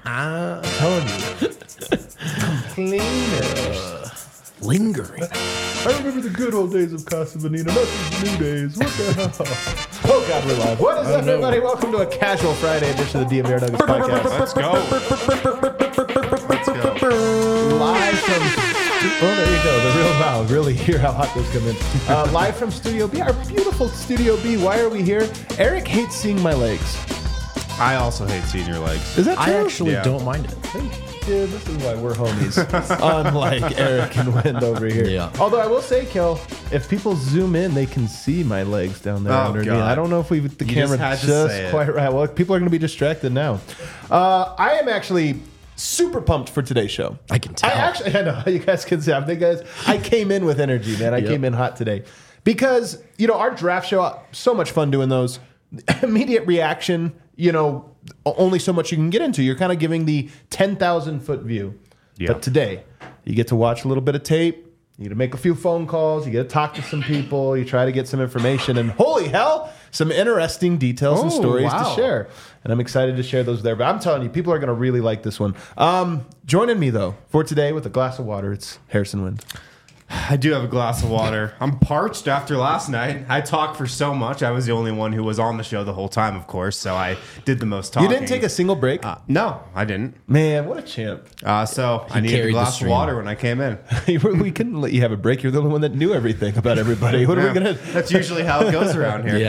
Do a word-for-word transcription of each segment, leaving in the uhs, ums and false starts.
I'm telling you. Cleaner. Lingering. I remember the good old days of Casa Bonita, not these new days. What the hell? Oh, God, we're live. What is up, no. everybody? Welcome to a casual Friday edition of the D M V R Nuggets podcast. Let's go. Let's go. Live from... Oh, there you go. The real Val. Really hear how hot those come in. Uh, live from Studio B, our beautiful Studio B. Why are we here? Eric hates seeing my legs. I also hate seeing your legs. Is that true? I actually Yeah. don't mind it. Dude, this is why we're homies. Unlike Eric and Wind over here. Yeah. Although I will say, Kel, if people zoom in, they can see my legs down there Oh, underneath. God. I don't know if we the You camera just had to just say it. quite right. Well, people are going to be distracted now. Uh, I am actually super pumped for today's show. I can tell. I actually, I know you guys can see. I think, guys, I came in with energy, man. I Yep. came in hot today because you know our draft show. So much fun doing those. Immediate reaction. You know, only so much you can get into. You're kind of giving the ten thousand foot view. Yeah. But today, you get to watch a little bit of tape. You get to make a few phone calls. You get to talk to some people. You try to get some information. And holy hell, some interesting details and Oh, stories wow. to share. And I'm excited to share those there. But I'm telling you, people are going to really like this one. Um, joining me, though, for today with a glass of water, it's Harrison Wind. I do have a glass of water. I'm parched after last night. I talked for so much. I was the only one who was on the show the whole time, of course, so I did the most talking. You didn't take a single break? Uh, no, I didn't. Man, what a champ. Uh, so I needed a carried the glass of stream. water when I came in. We couldn't let you have a break. You're the only one that knew everything about everybody. What are we Yeah, going to... That's usually how it goes around here.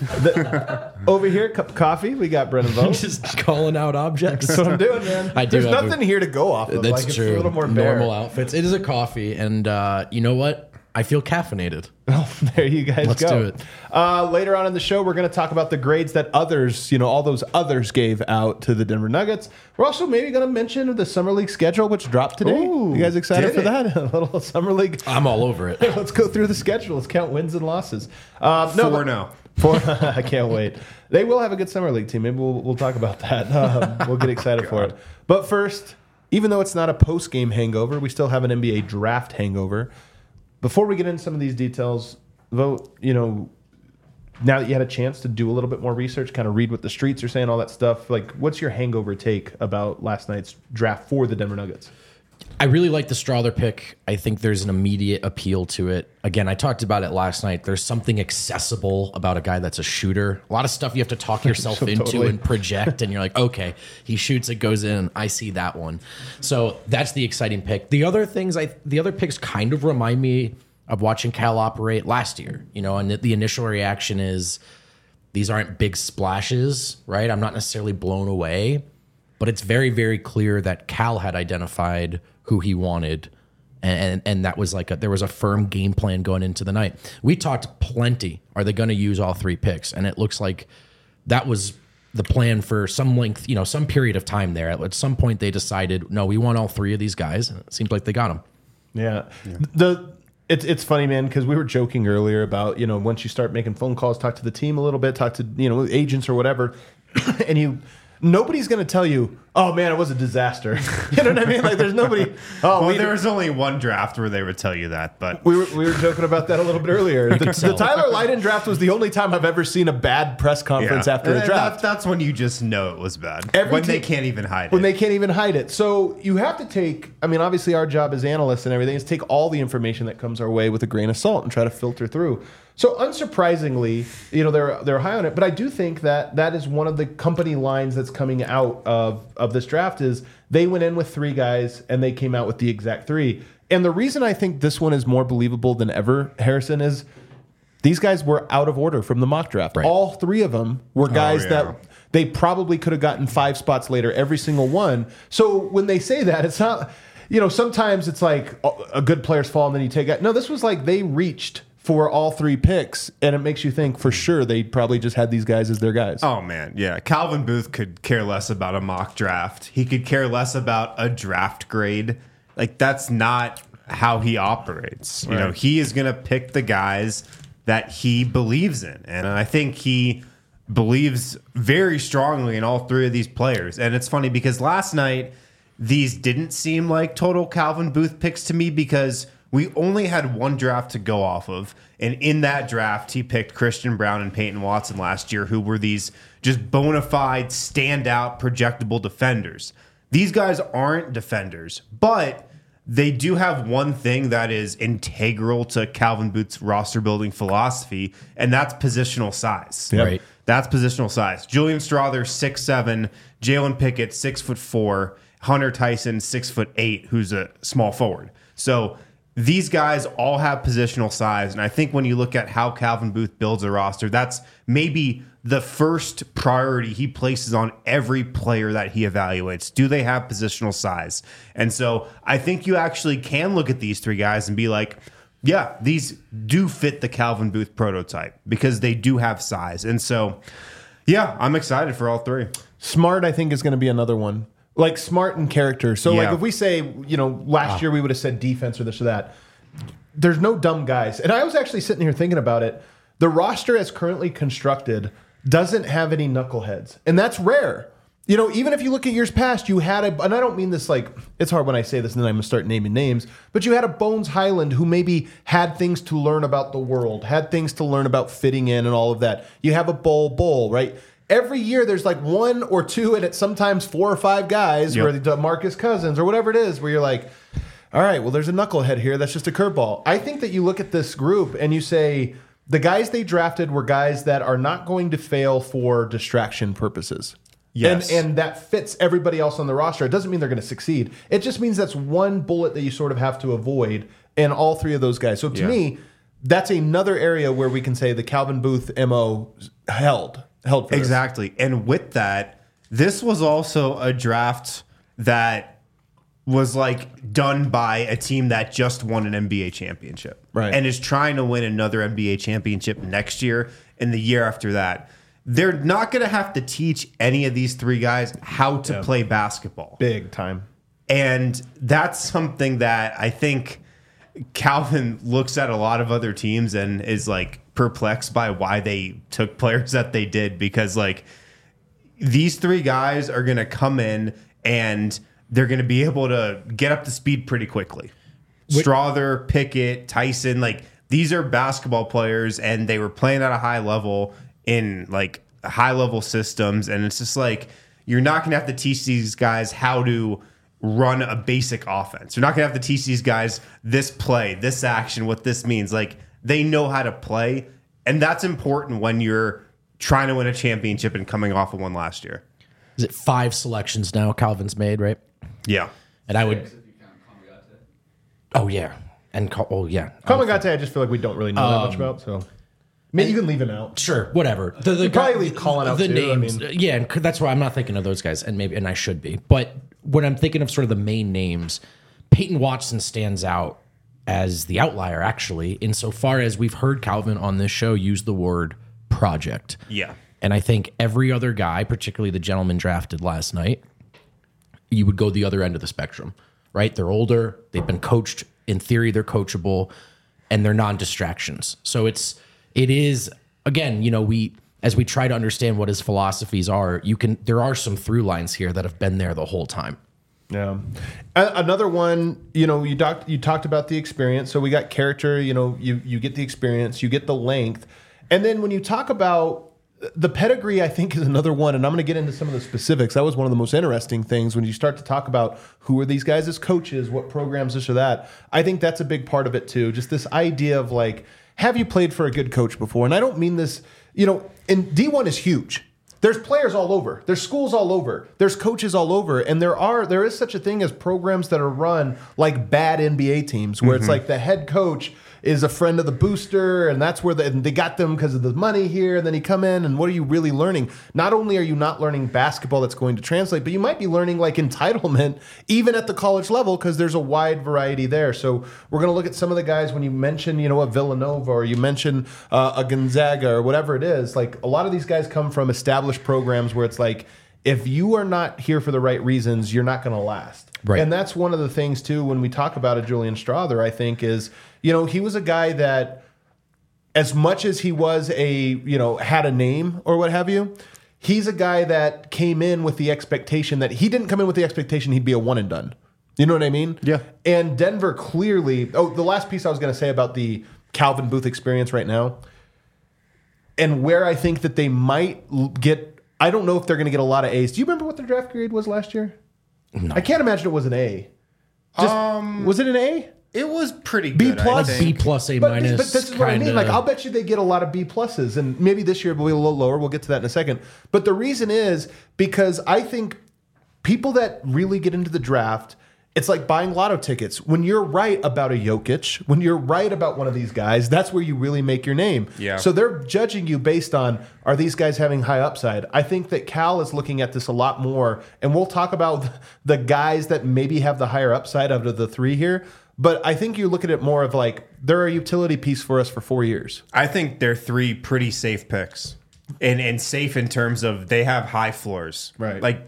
Yeah. Over here, cup of coffee. We got Brennan Vogt. Just calling out objects. That's what I'm doing, man. I do There's have nothing a- here to go off of. That's like, true. It's a little more bare. Normal outfits. It is a coffee, and uh, you know what? I feel caffeinated. Oh, there you guys Let's go. do it. Uh, later on in the show, we're going to talk about the grades that others, you know, all those others gave out to the Denver Nuggets. We're also maybe going to mention the Summer League schedule, which dropped today. Ooh, you guys excited did for it? that? A little Summer League. I'm all over it. Let's go through the schedule. Let's count wins and losses. Um, no, Four but- now. Four. I can't wait. They will have a good Summer League team. Maybe we'll, we'll talk about that. Um, we'll get excited for it. But first, even though it's not a post-game hangover, we still have an N B A draft hangover. Before we get into some of these details, Vogt, you know, now that you had a chance to do a little bit more research, kind of read what the streets are saying, all that stuff, like, what's your hangover take about last night's draft for the Denver Nuggets? I really like the Strother pick. I think there's an immediate appeal to it. Again, I talked about it last night. There's something accessible about a guy that's a shooter. A lot of stuff you have to talk yourself So into totally. and project, and you're like, okay, he shoots, it goes in. I see that one. So that's the exciting pick. The other things, I the other picks kind of remind me of watching Cal operate last year. You know, and the initial reaction is these aren't big splashes, right? I'm not necessarily blown away, but it's very, very clear that Cal had identified who he wanted, and and, and that was like a, there was a firm game plan going into the night. We talked plenty. Are they going to use all three picks? And it looks like that was the plan for some length, you know, some period of time there. At some point, they decided, no, we want all three of these guys. And it seems like they got them. Yeah. The it's it's funny, man, because we were joking earlier about, you know, once you start making phone calls, talk to the team a little bit, talk to, you know, agents or whatever, and you nobody's going to tell you, oh man, it was a disaster. You know what I mean? Like, there's nobody. Oh, Well, we, there was only one draft where they would tell you that, but we were we were joking about that a little bit earlier. The, the tell. Tyler Lydon draft was the only time I've ever seen a bad press conference yeah. after a And draft. That, that's when you just know it was bad. Every when team- they can't even hide when it. they can't even hide it. So you have to take, I mean, obviously our job as analysts and everything is take all the information that comes our way with a grain of salt and try to filter through. So unsurprisingly, you know, they're they're high on it, but I do think that that is one of the company lines that's coming out of, of this draft is they went in with three guys and they came out with the exact three. And the reason I think this one is more believable than ever, Harrison, is these guys were out of order from the mock draft. Right. All three of them were guys yeah. that they probably could have gotten five spots later, every single one. So when they say that, it's not, you know, sometimes it's like a good player's fall and then you take it. No, this was like they reached for all three picks, and it makes you think for sure they probably just had these guys as their guys. Oh, man. Yeah. Calvin Booth could care less about a mock draft. He could care less about a draft grade. Like, that's not how he operates. You know, Right. he is going to pick the guys that he believes in. And I think he believes very strongly in all three of these players. And it's funny because last night, these didn't seem like total Calvin Booth picks to me because we only had one draft to go off of. And in that draft, he picked Christian Brown and Peyton Watson last year, who were these just bona fide, standout, projectable defenders. these guys aren't defenders, but they do have one thing that is integral to Calvin Booth's roster building philosophy, and that's positional size. Yep. Right. That's positional size. Julian Strawther, six seven, Jalen Pickett, six foot four, Hunter Tyson, six foot eight, who's a small forward. So these guys all have positional size, and I think when you look at how Calvin Booth builds a roster, that's maybe the first priority he places on every player that he evaluates. Do they have positional size? And so I think you actually can look at these three guys and be like, yeah, these do fit the Calvin Booth prototype because they do have size. And so, yeah, I'm excited for all three. Smart, I think, is going to be another one. Like smart and character. So, Yeah. like, if we say, you know, last year we would have said defense or this or that, there's no dumb guys. And I was actually sitting here thinking about it. The roster as currently constructed doesn't have any knuckleheads. And that's rare. You know, even if you look at years past, you had a, and I don't mean this like, it's hard when I say this and then I'm going to start naming names, but you had a Bones Highland who maybe had things to learn about the world, had things to learn about fitting in and all of that. You have a Bull Bull, right? Every year there's like one or two, and it's sometimes four or five guys, Yep. where the Marcus Cousins or whatever it is, where you're like, all right, well, there's a knucklehead here. That's just a curveball. I think that you look at this group and you say the guys they drafted were guys that are not going to fail for distraction purposes. Yes. And, and that fits everybody else on the roster. It doesn't mean they're going to succeed. It just means that's one bullet that you sort of have to avoid in all three of those guys. So to Yeah. me, that's another area where we can say the Calvin Booth M O held. held for this. Exactly. And with that, this was also a draft that was like done by a team that just won an N B A championship. Right. And is trying to win another N B A championship next year and the year after that. They're not going to have to teach any of these three guys how to Yeah. play basketball. Big time. And that's something that I think Calvin looks at a lot of other teams and is like perplexed by why they took players that they did, because like these three guys are going to come in and they're going to be able to get up to speed pretty quickly. Strawther, Pickett, Tyson, like these are basketball players and they were playing at a high level in like high level systems. And it's just like, you're not going to have to teach these guys how to run a basic offense. You're not going to have to teach these guys this play, this action, what this means. Like they know how to play. And that's important when you're trying to win a championship and coming off of one last year. Is it five selections now Calvin's made, right? Yeah. And I would. Oh, yeah. And, Cal- oh, yeah. Kamagate, I just feel like we don't really know that much about. So maybe you can leave him out. Sure, whatever. The, the You probably leave Colin out the too, I names. mean. Yeah, and c- that's why I'm not thinking of those guys, and maybe and I should be. But when I'm thinking of sort of the main names, Peyton Watson stands out as the outlier, actually, insofar as we've heard Calvin on this show use the word project. Yeah. And I think every other guy, particularly the gentleman drafted last night, you would go the other end of the spectrum, right? They're older, they've been coached. In theory, they're coachable, and they're non-distractions. So it's it is again, you know, we as we try to understand what his philosophies are, you can there are some through lines here that have been there the whole time. Yeah. A- Another one, you know, you talked you talked about the experience. So we got character, you know, you you get the experience, you get the length. And then when you talk about the pedigree, I think, is another one, and I'm going to get into some of the specifics. That was one of the most interesting things when you start to talk about who are these guys as coaches, what programs, this or that. I think that's a big part of it too. Just this idea of like, have you played for a good coach before? And I don't mean this, you know, and D one is huge. There's players all over. There's schools all over. There's coaches all over. And there are there is such a thing as programs that are run like bad N B A teams where it's like the head coach is a friend of the booster, and that's where the, and they got them because of the money here, and then you come in, and what are you really learning? Not only are you not learning basketball that's going to translate, but you might be learning like entitlement even at the college level because there's a wide variety there. So we're going to look at some of the guys when you mention, you know, a Villanova or you mention uh, a Gonzaga or whatever it is. Like a lot of these guys come from established programs where it's like, if you are not here for the right reasons, you're not going to last. Right. And that's one of the things, too, when we talk about a Julian Strawther, I think, is, you know, he was a guy that, as much as he was a, you know, had a name or what have you, he's a guy that came in with the expectation that he didn't come in with the expectation he'd be a one and done. You know what I mean? Yeah. And Denver clearly, oh, the last piece I was going to say about the Calvin Booth experience right now, and where I think that they might get, I don't know if they're going to get a lot of A's. Do you remember what their draft grade was last year? I can't imagine it was an A. Just, um, was it an A? It was pretty B good. plus? I B think. plus, A But, minus. but this is what I mean. kinda- Like, I'll bet you they get a lot of B pluses, and maybe this year will be a little lower. We'll get to that in a second. But the reason is because I think people that really get into the draft, it's like buying lotto tickets. When you're right about a Jokic, when you're right about one of these guys, that's where you really make your name. Yeah. So they're judging you based on, are these guys having high upside? I think that Cal is looking at this a lot more, and we'll talk about the guys that maybe have the higher upside out of the three here. But I think you look at it more of like, they're a utility piece for us for four years. I think they're three pretty safe picks, and and safe in terms of they have high floors. Right. Like,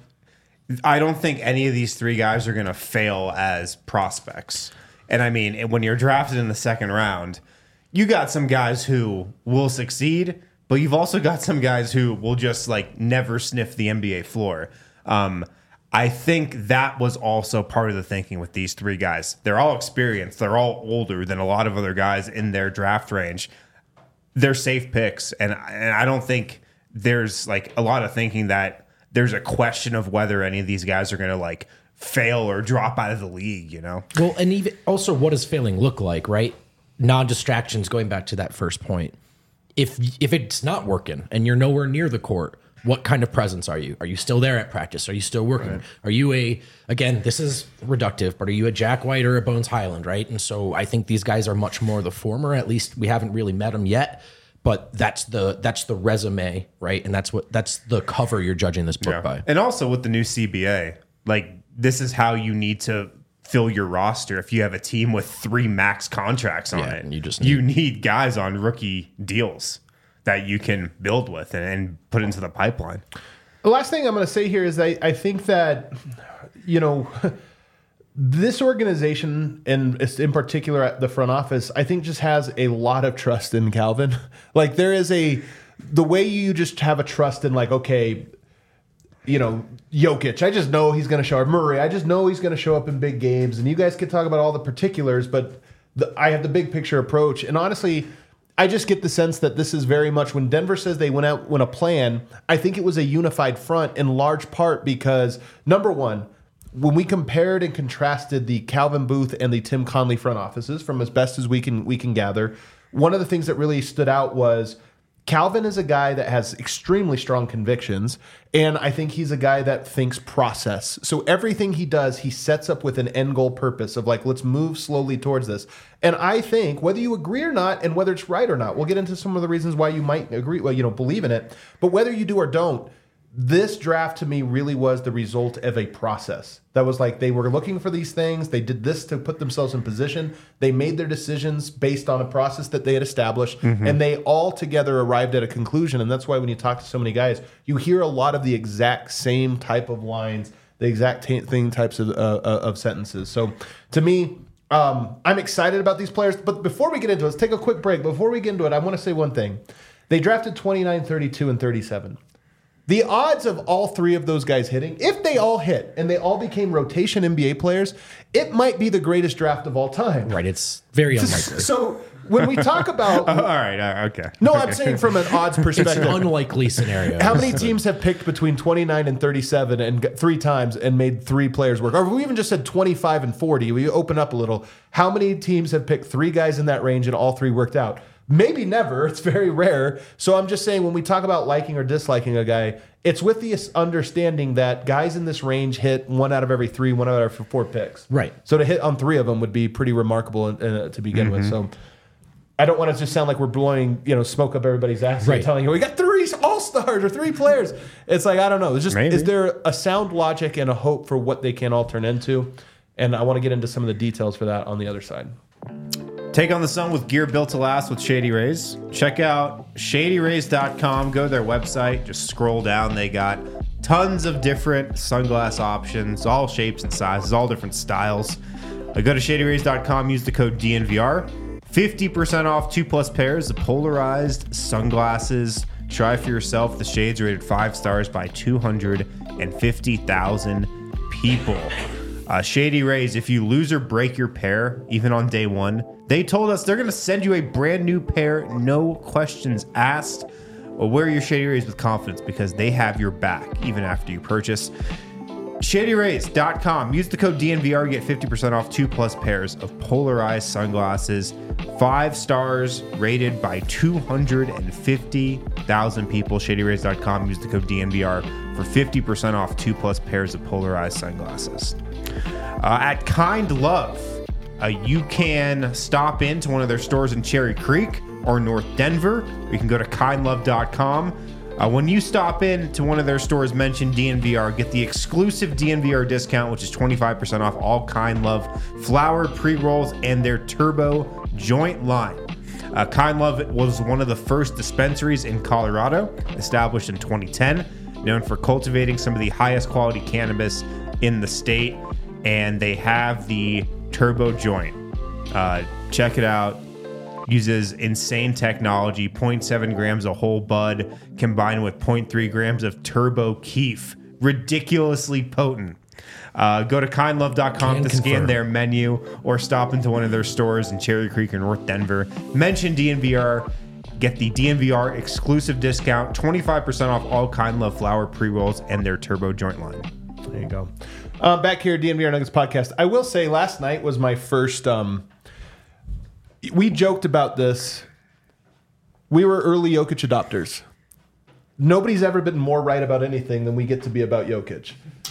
I don't think any of these three guys are going to fail as prospects. And I mean, when you're drafted in the second round, you got some guys who will succeed, but you've also got some guys who will just like never sniff the N B A floor. Um, I think that was also part of the thinking with these three guys. They're all experienced. They're all older than a lot of other guys in their draft range. They're safe picks, and and I don't think there's like a lot of thinking that there's a question of whether any of these guys are going to like fail or drop out of the league, you know? Well, and even also, what does failing look like, right? Non-distractions, going back to that first point. If if it's not working and you're nowhere near the court, what kind of presence are you? Are you still there at practice? Are you still working? Right. Are you a, again, this is reductive, but are you a Jack White or a Bones Highland, right? And so I think these guys are much more the former. At least we haven't really met them yet, but that's the that's the resume, right? And that's what that's the cover you're judging this book Yeah. by. And also with the new C B A, like this is how you need to fill your roster if you have a team with three max contracts on Yeah, it. and you just you need guys on rookie deals that you can build with and, and put into the pipeline. The last thing I'm going to say here is I, I think that, you know, this organization, and in particular at the front office, I think just has a lot of trust in Calvin. Like there is a, the way you just have a trust in like, okay, you know, Jokic, I just know he's going to show up. Murray, I just know he's going to show up in big games. And you guys can talk about all the particulars, but the, I have the big picture approach. And honestly, I just get the sense that this is very much when Denver says they went out with a plan, I think it was a unified front in large part because, number one, when we compared and contrasted the Calvin Booth and the Tim Conley front offices from as best as we can we can gather, one of the things that really stood out was Calvin is a guy that has extremely strong convictions, and I think he's a guy that thinks process. So everything he does, he sets up with an end goal purpose of like, let's move slowly towards this. And I think whether you agree or not, and whether it's right or not, we'll get into some of the reasons why you might agree, well, you know, believe in it. But whether you do or don't, this draft to me really was the result of a process. That was like they were looking for these things. They did this to put themselves in position. They made their decisions based on a process that they had established, mm-hmm. and they all together arrived at a conclusion. And that's why when you talk to so many guys, you hear a lot of the exact same type of lines, the exact t- thing types of, uh, of sentences. So to me, um, I'm excited about these players. But before we get into it, let's take a quick break. Before we get into it, I want to say one thing. They drafted twenty-nine, thirty-two, and thirty-seven. The odds of all three of those guys hitting, if they all hit and they all became rotation N B A players, it might be the greatest draft of all time. Right, it's very unlikely. So when we talk about... Oh, all right, all right, okay. No, okay. I'm saying from an odds perspective. It's an unlikely scenario. How many teams have picked between twenty-nine and thirty-seven and got three times and made three players work? Or if we even just said twenty-five and forty, we open up a little. How many teams have picked three guys in that range and all three worked out? Maybe never. It's very rare. So I'm just saying when we talk about liking or disliking a guy, it's with the understanding that guys in this range hit one out of every three, one out of every four picks. Right. So to hit on three of them would be pretty remarkable uh, to begin mm-hmm. with. So I don't want to just sound like we're blowing, you know, smoke up everybody's ass right. and telling you we got three all-stars or three players. It's like, I don't know. It's just, Maybe. Is there a sound logic and a hope for what they can all turn into? And I want to get into some of the details for that on the other side. Take on the sun with gear built to last with Shady Rays. Check out shady rays dot com. Go to their website. Just scroll down. They got tons of different sunglass options, all shapes and sizes, all different styles. Uh, go to shady rays dot com. Use the code D N V R. fifty percent off two plus pairs of polarized sunglasses. Try for yourself. The shades rated five stars by two hundred fifty thousand people. Uh, Shady Rays, if you lose or break your pair, even on day one, they told us they're going to send you a brand new pair, no questions asked. Well, wear your Shady Rays with confidence because they have your back even after you purchase. shady rays dot com. Use the code D N V R. Get fifty percent off two plus pairs of polarized sunglasses. Five stars rated by two hundred fifty thousand people. shady rays dot com. Use the code D N V R for fifty percent off two plus pairs of polarized sunglasses. Uh, at Kind Love, uh, you can stop into one of their stores in Cherry Creek or North Denver. Or you can go to kind love dot com. Uh, when you stop in to one of their stores, mention D N V R, get the exclusive D N V R discount, which is twenty-five percent off all Kind Love flower pre-rolls and their turbo joint line. Uh, Kind Love was one of the first dispensaries in Colorado, established in twenty ten, known for cultivating some of the highest quality cannabis in the state, and they have the turbo joint. Uh, check it out. Uses insane technology, zero point seven grams of whole bud combined with zero point three grams of turbo keef. Ridiculously potent. Uh, go to kind love dot com Can to confirm. scan their menu or stop into one of their stores in Cherry Creek or North Denver. Mention D N V R. Get the D N V R exclusive discount, twenty-five percent off all Kind Love flower pre-rolls and their turbo joint line. There you go. Uh, back here, D N V R Nuggets podcast. I will say last night was my first... Um, we joked about this. We were early Jokic adopters. Nobody's ever been more right about anything than we get to be about Jokic.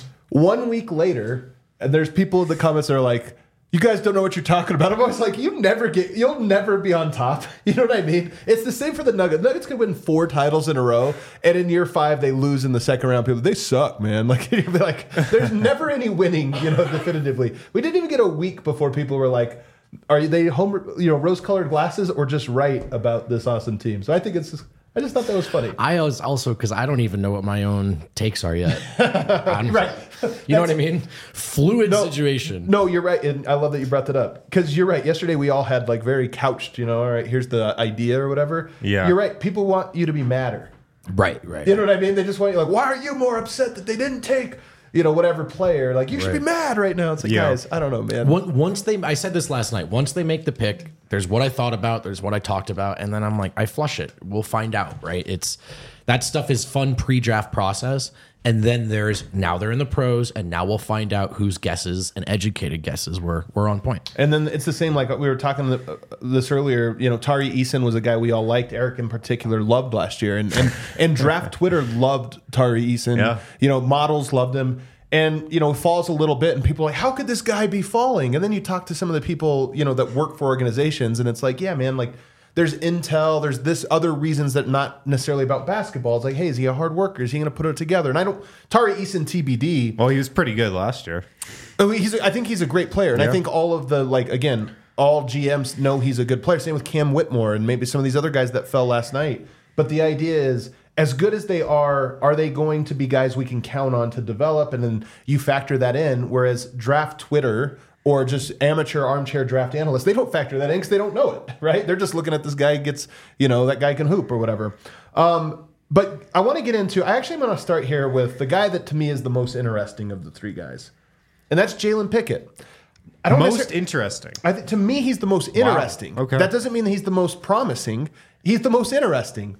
One week later, and there's people in the comments that are like, you guys don't know what you're talking about. I'm always like, you never get, you'll never be on top. You know what I mean? It's the same for the Nuggets. Nuggets could win four titles in a row, and in year five they lose in the second round. People, they suck, man. Like, you'll be like, there's never any winning, you know, definitively. We didn't even get a week before people were like, are they home, you know, rose-colored glasses or just right about this awesome team? So I think it's just, I just thought that was funny. I was also, because I don't even know what my own takes are yet. I'm- Right. You know what I mean? Fluid No, situation. No, you're right, and I love that you brought that up because you're right. Yesterday we all had like very couched, you know. All right, here's the idea or whatever. Yeah. You're right. People want you to be madder. Right, right. You know what I mean? They just want you like, why are you more upset that they didn't take, you know, whatever player? Like you should be Right. mad right now. It's like, Yeah. guys, I don't know, man. One- Once they, I said this last night. Once they make the pick, there's what I thought about, there's what I talked about, and then I'm like, I flush it. We'll find out, right? It's that stuff is fun pre-draft process, and then there's now they're in the pros, and now we'll find out whose guesses and educated guesses were were on point. And then it's the same like we were talking th- this earlier. You know, Tari Eason was a guy we all liked. Eric in particular loved last year, and and, and draft Twitter loved Tari Eason. Yeah. You know, models loved him. And, you know, falls a little bit, and people are like, how could this guy be falling? And then you talk to some of the people, you know, that work for organizations, and it's like, yeah, man, like, there's intel, there's this other reasons that not necessarily about basketball. It's like, hey, is he a hard worker? Is he going to put it together? And I don't, Tari Eason T B D. Well, he was pretty good last year. Oh, he's, I think he's a great player. And Yeah. I think all of the, like, again, all G Ms know he's a good player. Same with Cam Whitmore and maybe some of these other guys that fell last night. But the idea is, as good as they are, are they going to be guys we can count on to develop? And then you factor that in. Whereas draft Twitter or just amateur armchair draft analysts, they don't factor that in because they don't know it, right? They're just looking at this guy gets, you know, that guy can hoop or whatever. Um, but I want to get into, I actually want to start here with the guy that to me is the most interesting of the three guys. And that's Jalen Pickett. I don't Most necessar- interesting. I th- to me, he's the most interesting. Okay. That doesn't mean that he's the most promising. He's the most interesting.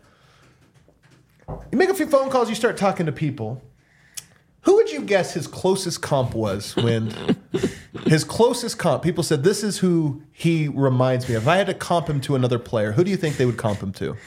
You make a few phone calls, you start talking to people. Who would you guess his closest comp was when his closest comp, people said, this is who he reminds me of. If I had to comp him to another player, who do you think they would comp him to?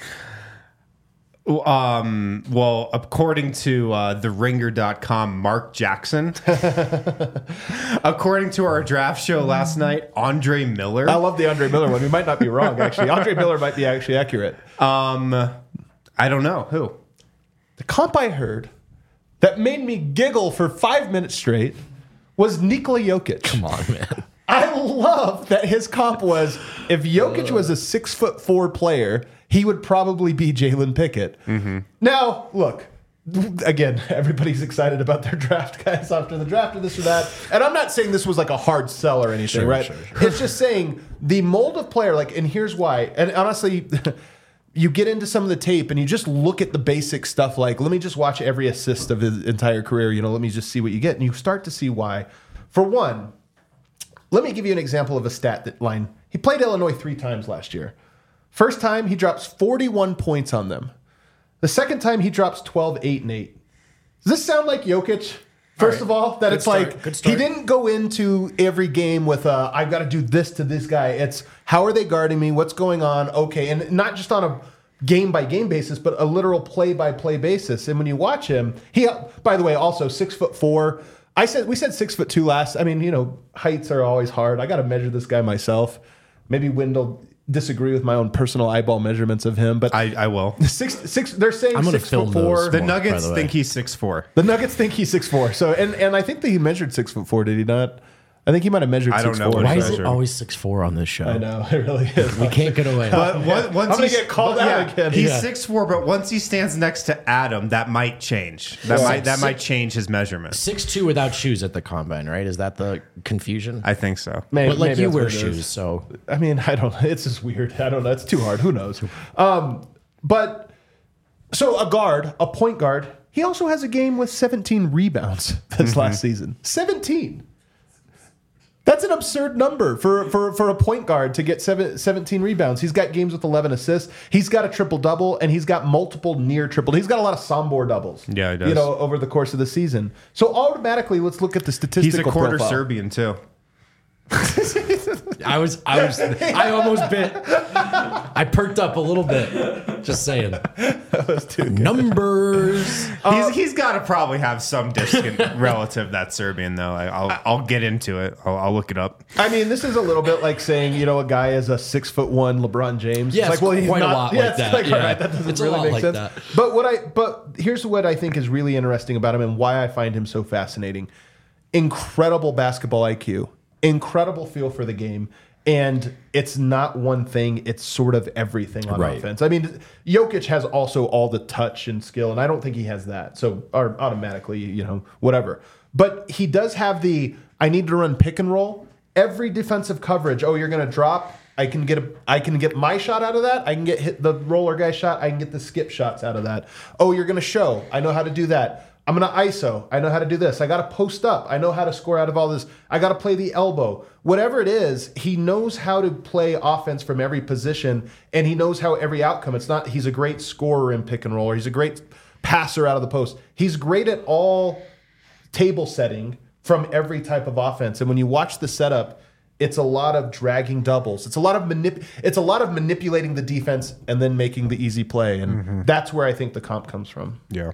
Um, well, according to uh, the ringer dot com, Mark Jackson. According to our draft show last night, Andre Miller. I love the Andre Miller one. We might not be wrong, actually. Andre Miller might be actually accurate. Um, I don't know. Who? The comp I heard that made me giggle for five minutes straight was Nikola Jokic. Come on, man. I love that his comp was if Jokic was a six foot four player, he would probably be Jalen Pickett. Mm-hmm. Now, look, again, everybody's excited about their draft guys after the draft or this or that. And I'm not saying this was like a hard sell or anything, Sure, right? sure, sure. It's just saying the mold of player, like, and here's why. And honestly, you get into some of the tape and you just look at the basic stuff like, let me just watch every assist of his entire career. You know, let me just see what you get. And you start to see why. For one, let me give you an example of a stat that line. He played Illinois three times last year. First time, he drops forty-one points on them. The second time, he drops twelve, eight, and eight. Does this sound like Jokic? First right. of all, that Good it's start. like Good he start. didn't go into every game with uh, I've got to do this to this guy. It's how are they guarding me? What's going on? Okay, and not just on a game by game basis, but a literal play by play basis. And when you watch him, he by the way also six foot four. I said we said six foot two last. I mean, you know, heights are always hard. I got to measure this guy myself. Maybe Wendell disagree with my own personal eyeball measurements of him, but I, I will. six six. They're saying I'm gonna six film foot four. those. The By Nuggets the way. think he's six four. The Nuggets think he's six four. So and and I think that he measured six foot four. Did he not? I think he might have measured. I don't six know four. what Why he is it measured. always six four on this show? I know it really is. We can't get away. But one- once I'm gonna he's- get called but out again. He's Yeah. six four, but once he stands next to Adam, that might change. That Yeah. might that Six- might change his measurement. six two without shoes at the combine, right? Is that the confusion? I think so. Maybe- but like maybe you that's wear what it is. shoes, so I mean, I don't. It's just weird. I don't know. It's too hard. Who knows? Um, but so a guard, a point guard. He also has a game with seventeen rebounds this Mm-hmm. last season. seventeen. That's an absurd number for, for, for a point guard to get seven, seventeen rebounds. He's got games with eleven assists. He's got a triple double, and he's got multiple near triple. He's got a lot of Sombor doubles. Yeah, he does. You know, over the course of the season. So automatically, let's look at the statistical. He's a quarter profile. Serbian too. I was, I was, I almost bit. I perked up a little bit. Just saying. Numbers. he's he's got to probably have some distant relative that's Serbian though. I, I'll I'll get into it. I'll, I'll look it up. I mean, this is a little bit like saying, you know, a guy is a six foot one LeBron James. Yeah, it's it's he's quite a not- lot yeah, like it's that. Like, Yeah. all right, that doesn't It's a really lot make like sense. that. But what I but here's what I think is really interesting about him and why I find him so fascinating. Incredible basketball I Q, incredible feel for the game. And it's not one thing, it's sort of everything on Right. offense. I mean, Jokic has also all the touch and skill, and I don't think he has that. So, or automatically, you know, whatever. But he does have the, I need to run pick and roll. Every defensive coverage, oh, you're going to drop. I can get a, I can get my shot out of that. I can get hit the roller guy shot. I can get the skip shots out of that. Oh, you're going to show. I know how to do that. I'm going to I S O. I know how to do this. I got to post up. I know how to score out of all this. I got to play the elbow. Whatever it is, he knows how to play offense from every position, and he knows how every outcome. It's not he's a great scorer in pick and roll, or he's a great passer out of the post. He's great at all table setting from every type of offense. And when you watch the setup, it's a lot of dragging doubles. It's a lot of manip- It's a lot of manipulating the defense and then making the easy play. And Mm-hmm. that's where I think the comp comes from. Yeah.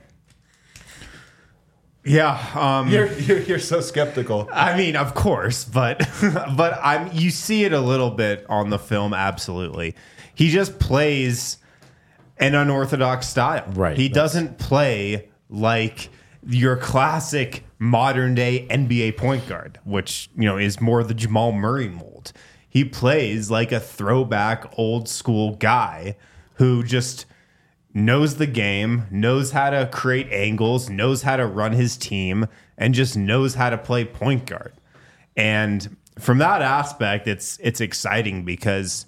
Yeah, um, You're, you're you're so skeptical. I mean, of course, but but I'm you see it a little bit on the film. Absolutely, he just plays an unorthodox style. Right, He that's- doesn't play like your classic modern day N B A point guard, which you know is more the Jamal Murray mold. He plays like a throwback, old school guy who just knows the game, knows how to create angles, knows how to run his team, and just knows how to play point guard. And from that aspect, it's it's exciting because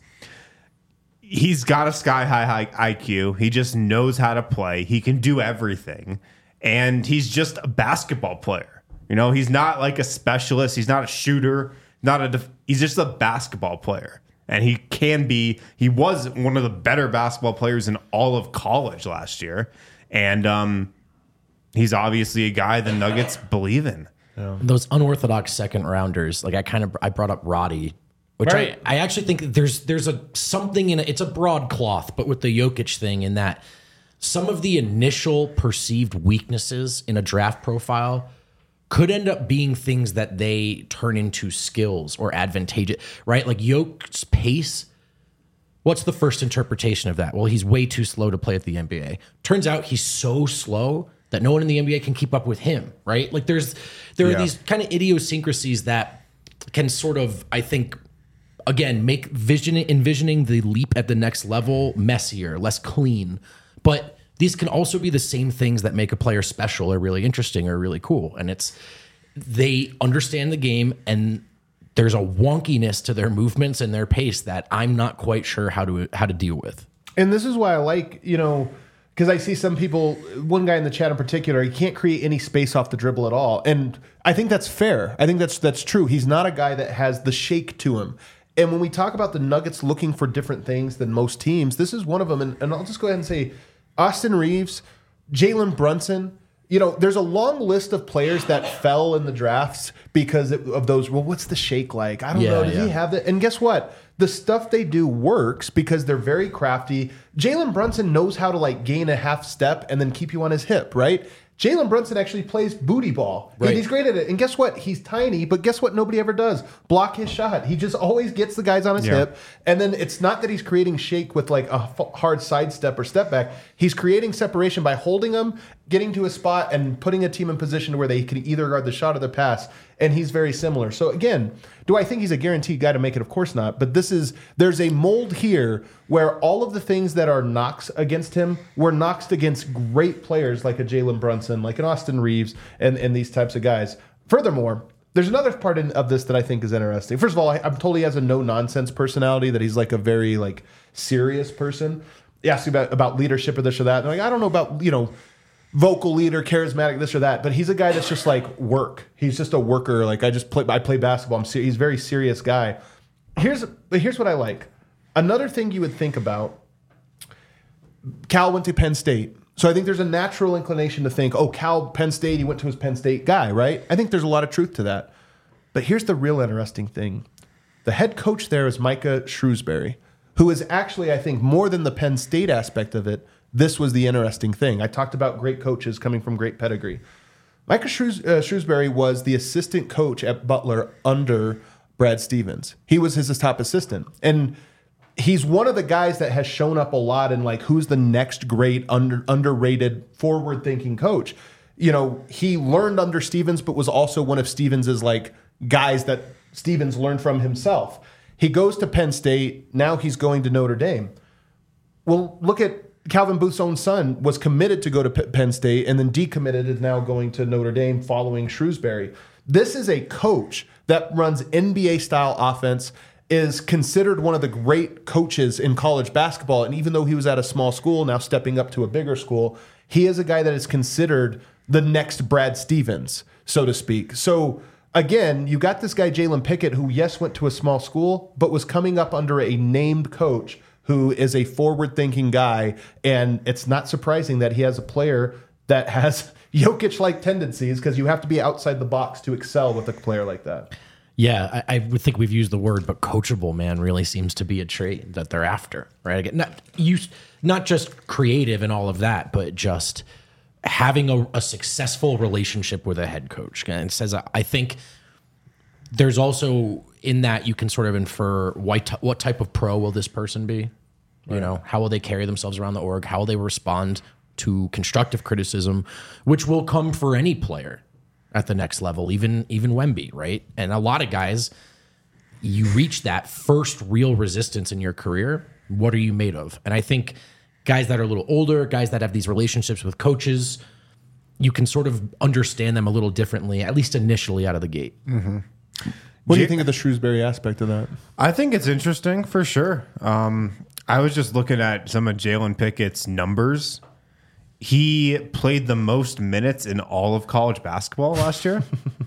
he's got a sky high, high I Q. He just knows how to play. He can do everything. And he's just a basketball player. You know, he's not like a specialist. He's not a shooter. Not a. Def- he's just a basketball player. And he can be, he was one of the better basketball players in all of college last year. And um, he's obviously a guy the Nuggets believe in. Those unorthodox second rounders, like I kind of I brought up Roddy, which Right. I, I actually think there's there's a something in it. It's a broadcloth, but with the Jokic thing in that some of the initial perceived weaknesses in a draft profile could end up being things that they turn into skills or advantageous, right? Like Jokic's pace. What's the first interpretation of that? Well, he's way too slow to play at the N B A. Turns out he's so slow that no one in the N B A can keep up with him, right? Like there's there Yeah. are these kind of idiosyncrasies that can sort of, I think, again, make vision envisioning the leap at the next level messier, less clean. But these can also be the same things that make a player special or really interesting or really cool. And it's they understand the game and there's a wonkiness to their movements and their pace that I'm not quite sure how to how to deal with. And this is why I like, you know, because I see some people, one guy in the chat in particular, he can't create any space off the dribble at all. And I think that's fair. I think that's that's true. He's not a guy that has the shake to him. And when we talk about the Nuggets looking for different things than most teams, this is one of them. And, and I'll just go ahead and say Austin Reeves, Jalen Brunson, you know, there's a long list of players that fell in the drafts because of those. Well, what's the shake like? I don't Yeah, know. Does yeah. he have that? And guess what? The stuff they do works because they're very crafty. Jalen Brunson knows how to like gain a half step and then keep you on his hip, right? Jalen Brunson actually plays booty ball. Right. And he's great at it. And guess what? He's tiny, but guess what? Nobody ever does. Block his shot. He just always gets the guys on his Yeah. hip. And then it's not that he's creating shake with like a f- hard sidestep or step back. He's creating separation by holding them, getting to a spot, and putting a team in position to where they can either guard the shot or the pass. And he's very similar. So again, do I think he's a guaranteed guy to make it? Of course not. But this is there's a mold here where all of the things that are knocks against him were knocks against great players like a Jalen Brunson, like an Austin Reeves, and, and these types of guys. Furthermore, there's another part in, of this that I think is interesting. First of all, I, I'm told he has a no-nonsense personality, that he's like a very like serious person. He asks you about, about leadership or this or that. And I'm like, I don't know about, you know, vocal leader, charismatic, this or that, but he's a guy that's just like work. He's just a worker. Like I just play, I play basketball. I'm ser- he's a very serious guy. Here's, but here's what I like. Another thing you would think about. Cal went to Penn State, so I think there's a natural inclination to think, oh, Cal, Penn State, he went to his Penn State guy, right? I think there's a lot of truth to that. But here's the real interesting thing: the head coach there is Micah Shrewsbury, who is actually, I think, more than the Penn State aspect of it. This was the interesting thing. I talked about great coaches coming from great pedigree. Micah Shrews- uh, Shrewsbury was the assistant coach at Butler under Brad Stevens. He was his top assistant. And he's one of the guys that has shown up a lot in like who's the next great under, underrated forward-thinking coach. You know, he learned under Stevens, but was also one of Stevens's like guys that Stevens learned from himself. He goes to Penn State. Now he's going to Notre Dame. Well, look at Calvin Booth's own son was committed to go to P- Penn State and then decommitted, is now going to Notre Dame following Shrewsbury. This is a coach that runs N B A-style offense, is considered one of the great coaches in college basketball. And even though he was at a small school, now stepping up to a bigger school, he is a guy that is considered the next Brad Stevens, so to speak. So again, you got this guy, Jalen Pickett, who, yes, went to a small school, but was coming up under a named coach who is a forward-thinking guy. And it's not surprising that he has a player that has Jokic-like tendencies, because you have to be outside the box to excel with a player like that. Yeah, I, I would think we've used the word, but coachable, man, really seems to be a trait that they're after, right? Again, not use, not just creative and all of that, but just having a, a successful relationship with a head coach. And it says, I think there's also in that you can sort of infer what, what type of pro will this person be? You know, how will they carry themselves around the org? How will they respond to constructive criticism, which will come for any player at the next level, even even Wemby, right? And a lot of guys, you reach that first real resistance in your career. What are you made of? And I think guys that are a little older, guys that have these relationships with coaches, you can sort of understand them a little differently, at least initially out of the gate. Mm-hmm. What do you think of the Shrewsbury aspect of that? I think it's interesting for sure. Um, I was just looking at some of Jalen Pickett's numbers. He played the most minutes in all of college basketball last year.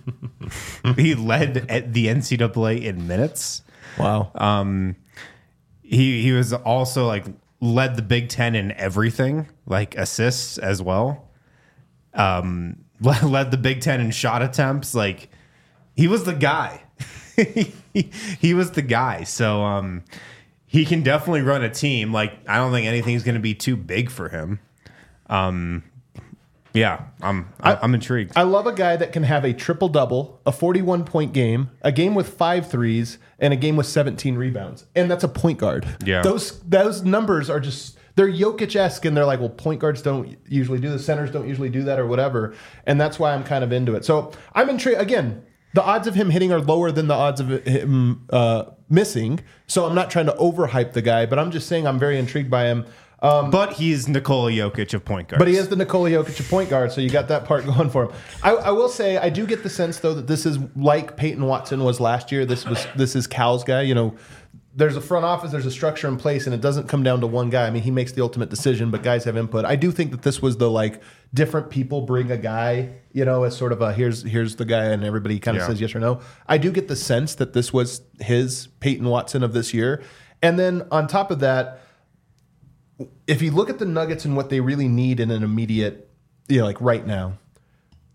He led at the N C double A in minutes. Wow. Um, he he was also like led the Big Ten in everything, like assists as well. Um, led the Big Ten in shot attempts. Like he was the guy. he, he was the guy. So um, he can definitely run a team. Like I don't think anything's going to be too big for him. Um, yeah, I'm I, I'm intrigued. I love a guy that can have a triple double, a forty-one point game, a game with five threes, and a game with seventeen rebounds, and that's a point guard. Yeah, those those numbers are just they're Jokic-esque, and they're like, well, point guards don't usually do the centers don't usually do that or whatever, and that's why I'm kind of into it. So I'm intrigued. Again, the odds of him hitting are lower than the odds of him uh, missing. So I'm not trying to overhype the guy, but I'm just saying I'm very intrigued by him. Um, but he's Nikola Jokic of point guard. But he is the Nikola Jokic of point guard, so you got that part going for him. I, I will say, I do get the sense though that this is like Peyton Watson was last year. This was this is Cal's guy. You know, there's a front office, there's a structure in place, and it doesn't come down to one guy. I mean, he makes the ultimate decision, but guys have input. I do think that this was the like different people bring a guy, you know, as sort of a here's here's the guy, and everybody kind of yeah. says yes or no. I do get the sense that this was his Peyton Watson of this year, and then on top of that, if you look at the Nuggets and what they really need in an immediate, you know, like right now,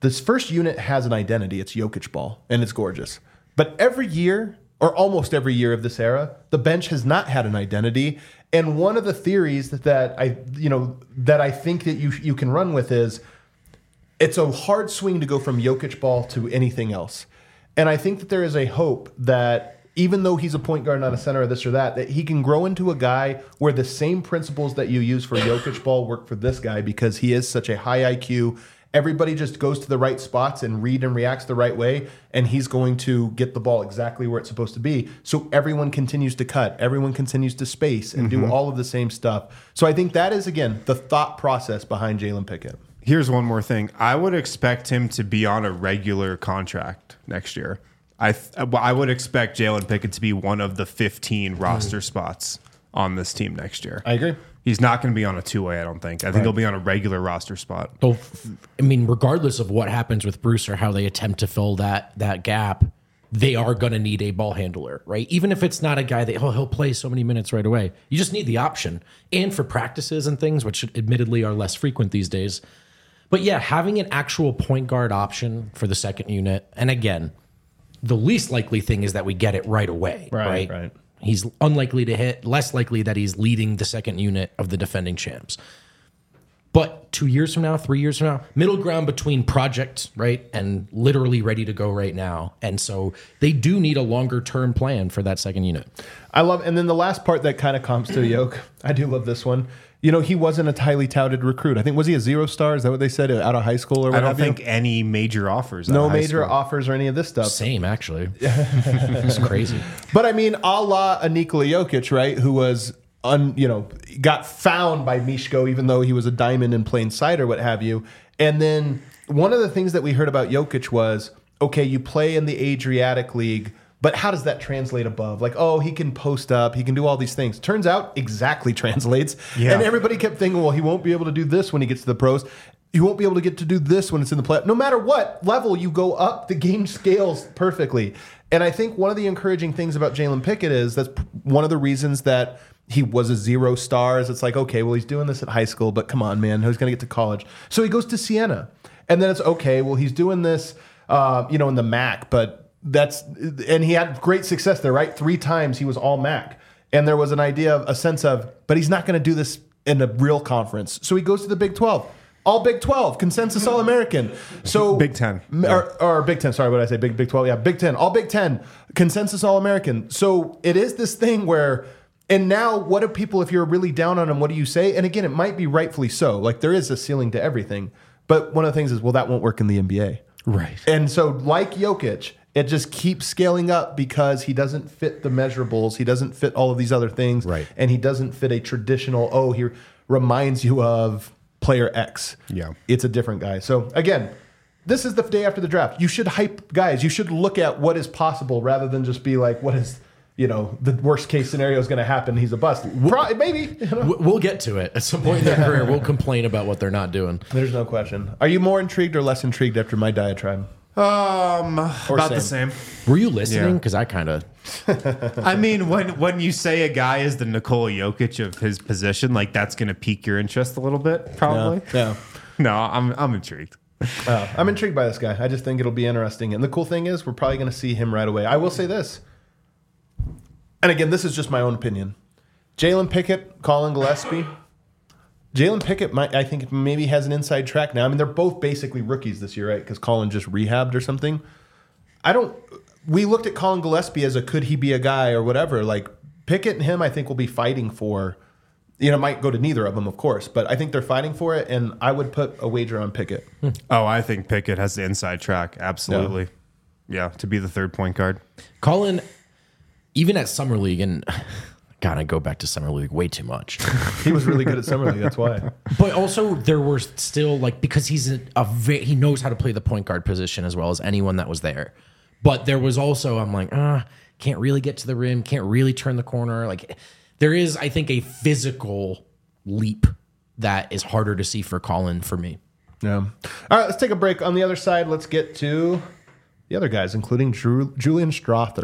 this first unit has an identity. It's Jokic ball, and it's gorgeous. But every year, or almost every year of this era, the bench has not had an identity. And one of the theories that, that I, you know, that I think that you you can run with is it's a hard swing to go from Jokic ball to anything else. And I think that there is a hope that even though he's a point guard, not a center or this or that, that he can grow into a guy where the same principles that you use for Jokic ball work for this guy because he is such a high I Q. Everybody just goes to the right spots and read and reacts the right way, and he's going to get the ball exactly where it's supposed to be. So everyone continues to cut, everyone continues to space and mm-hmm. do all of the same stuff. So I think that is, again, the thought process behind Jalen Pickett. Here's one more thing. I would expect him to be on a regular contract next year. I th- I would expect Jalen Pickett to be one of the fifteen roster spots on this team next year. I agree. He's not going to be on a two-way, I don't think. I think right. he'll be on a regular roster spot. So, I mean, regardless of what happens with Bruce or how they attempt to fill that that gap, they are going to need a ball handler, right? Even if it's not a guy that, oh, he'll play so many minutes right away. You just need the option. And for practices and things, which admittedly are less frequent these days. But yeah, having an actual point guard option for the second unit. And again, the least likely thing is that we get it right away, right? Right, right. He's unlikely to hit, less likely that he's leading the second unit of the defending champs. But two years from now, three years from now, middle ground between project, right, and literally ready to go right now. And so they do need a longer term plan for that second unit. I love, and then the last part that kind of comes to Yoke, I do love this one. You know, he wasn't a highly touted recruit. I think, was he a zero star? Is that what they said out of high school or what? I don't think you? any major offers. No major school. offers or any of this stuff. Same, actually. It's crazy. But I mean, a la Nikola Jokic, right? Who was, un, you know, got found by Mishko, even though he was a diamond in plain sight or what have you. And then one of the things that we heard about Jokic was, okay, you play in the Adriatic League, but how does that translate above? Like, oh, he can post up, he can do all these things. Turns out, exactly translates. Yeah. And everybody kept thinking, well, he won't be able to do this when he gets to the pros. He won't be able to get to do this when it's in the play. No matter what level you go up, the game scales perfectly. And I think one of the encouraging things about Jalen Pickett is that's one of the reasons that he was a zero star is it's like, okay, well, he's doing this at high school, but come on, man, who's going to get to college? So he goes to Siena. And then it's, okay, well, he's doing this, uh, you know, in the M A C, but That's and he had great success there, right? Three times he was all M A C. And there was an idea of a sense of, but he's not going to do this in a real conference. So he goes to the Big twelve. All Big twelve, consensus All-American. So Big Ten. Or, or Big Ten, sorry, what did I say? Big Big twelve. Yeah, Big Ten. All Big Ten, consensus All-American. So it is this thing where, and now what do people, if you're really down on him, what do you say? And again, it might be rightfully so. Like there is a ceiling to everything. But one of the things is, well, that won't work in the N B A. Right. And so like Jokic, it just keeps scaling up because he doesn't fit the measurables. He doesn't fit all of these other things. Right. And he doesn't fit a traditional, oh, he reminds you of player X. Yeah. It's a different guy. So again, this is the day after the draft. You should hype guys. You should look at what is possible rather than just be like, what is, you know, the worst case scenario is going to happen. He's a bust. Pro- maybe. You know? We'll get to it. At some point in their career, we'll complain about what they're not doing. There's no question. Are you more intrigued or less intrigued after my diatribe? Um, Or about same. the same. Were you listening? Yeah. Because I kind of... I mean, when when you say a guy is the Nikola Jokic of his position, like that's going to pique your interest a little bit, probably. Yeah. No, I'm I'm intrigued. Uh, I'm intrigued by this guy. I just think it'll be interesting. And the cool thing is, we're probably going to see him right away. I will say this. And again, this is just my own opinion. Jalen Pickett, Colin Gillespie. Jalen Pickett, might, I think, maybe has an inside track now. I mean, they're both basically rookies this year, right? Because Colin just rehabbed or something. I don't... We looked at Colin Gillespie as a could he be a guy or whatever. Like, Pickett and him, I think, will be fighting for... You know, it might go to neither of them, of course. But I think they're fighting for it, and I would put a wager on Pickett. Oh, I think Pickett has the inside track. Absolutely. Yeah, to be the third point guard. Colin, even at Summer League, and... God, I go back to Summer League way too much. He was really good at Summer League, that's why. But also, there were still, like, because he's a, a ve- he knows how to play the point guard position as well as anyone that was there. But there was also, I'm like, ah, can't really get to the rim, can't really turn the corner. Like, there is, I think, a physical leap that is harder to see for Colin for me. Yeah. All right, let's take a break. On the other side, let's get to the other guys, including Drew, Julian Strother.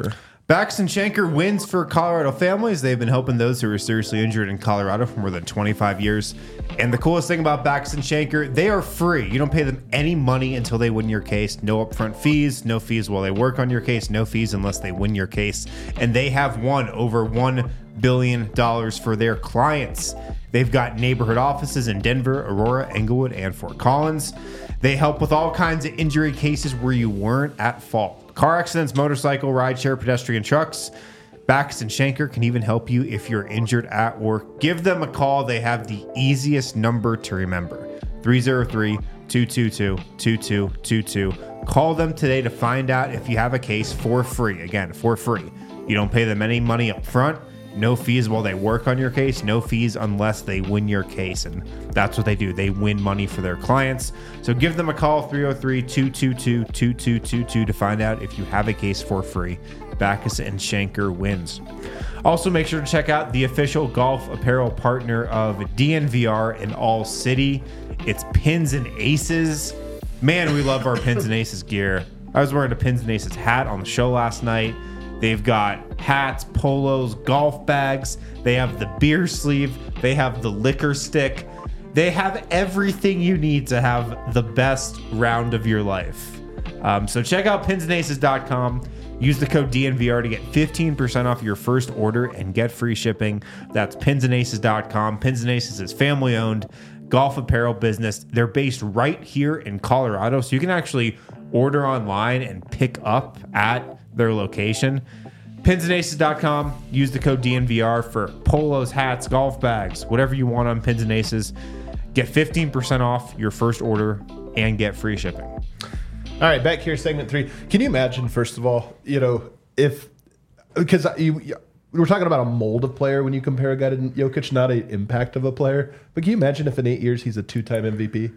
Backus and Schenker wins for Colorado families. They've been helping those who are seriously injured in Colorado for more than twenty-five years. And the coolest thing about Backus and Schenker, they are free. You don't pay them any money until they win your case. No upfront fees, no fees while they work on your case, no fees unless they win your case. And they have won over one billion dollars for their clients. They've got neighborhood offices in Denver, Aurora, Englewood, and Fort Collins. They help with all kinds of injury cases where you weren't at fault. Car accidents, motorcycle, rideshare, pedestrian trucks. Backus and Schenker can even help you if you're injured at work. Give them a call. They have the easiest number to remember. three oh three, two two two, two two two two. Call them today to find out if you have a case for free. Again, for free. You don't pay them any money up front. No fees while they work on your case. No fees unless they win your case. And that's what they do. They win money for their clients. So give them a call, three oh three, two two two, two two two two, to find out if you have a case for free. Backus and Schenker wins. Also, make sure to check out the official golf apparel partner of D N V R in All City. It's Pins and Aces. Man, we love our Pins and Aces gear. I was wearing a Pins and Aces hat on the show last night. They've got hats, polos, golf bags. They have the beer sleeve. They have the liquor stick. They have everything you need to have the best round of your life. Um, so check out pins and aces dot com. Use the code D N V R to get fifteen percent off your first order and get free shipping. That's pins and aces dot com. Pins and Aces is family-owned golf apparel business. They're based right here in Colorado, so you can actually order online and pick up at their location. pins and aces dot com. Use the code D N V R for polos, hats, golf bags, whatever you want on Pins and Aces. Get fifteen percent off your first order and get free shipping. All right, back here, segment three. Can you imagine, first of all, you know, if because you, you we're talking about a mold of player when you compare a guy to Jokic, not an impact of a player. But can you imagine if in eight years he's a two-time M V P?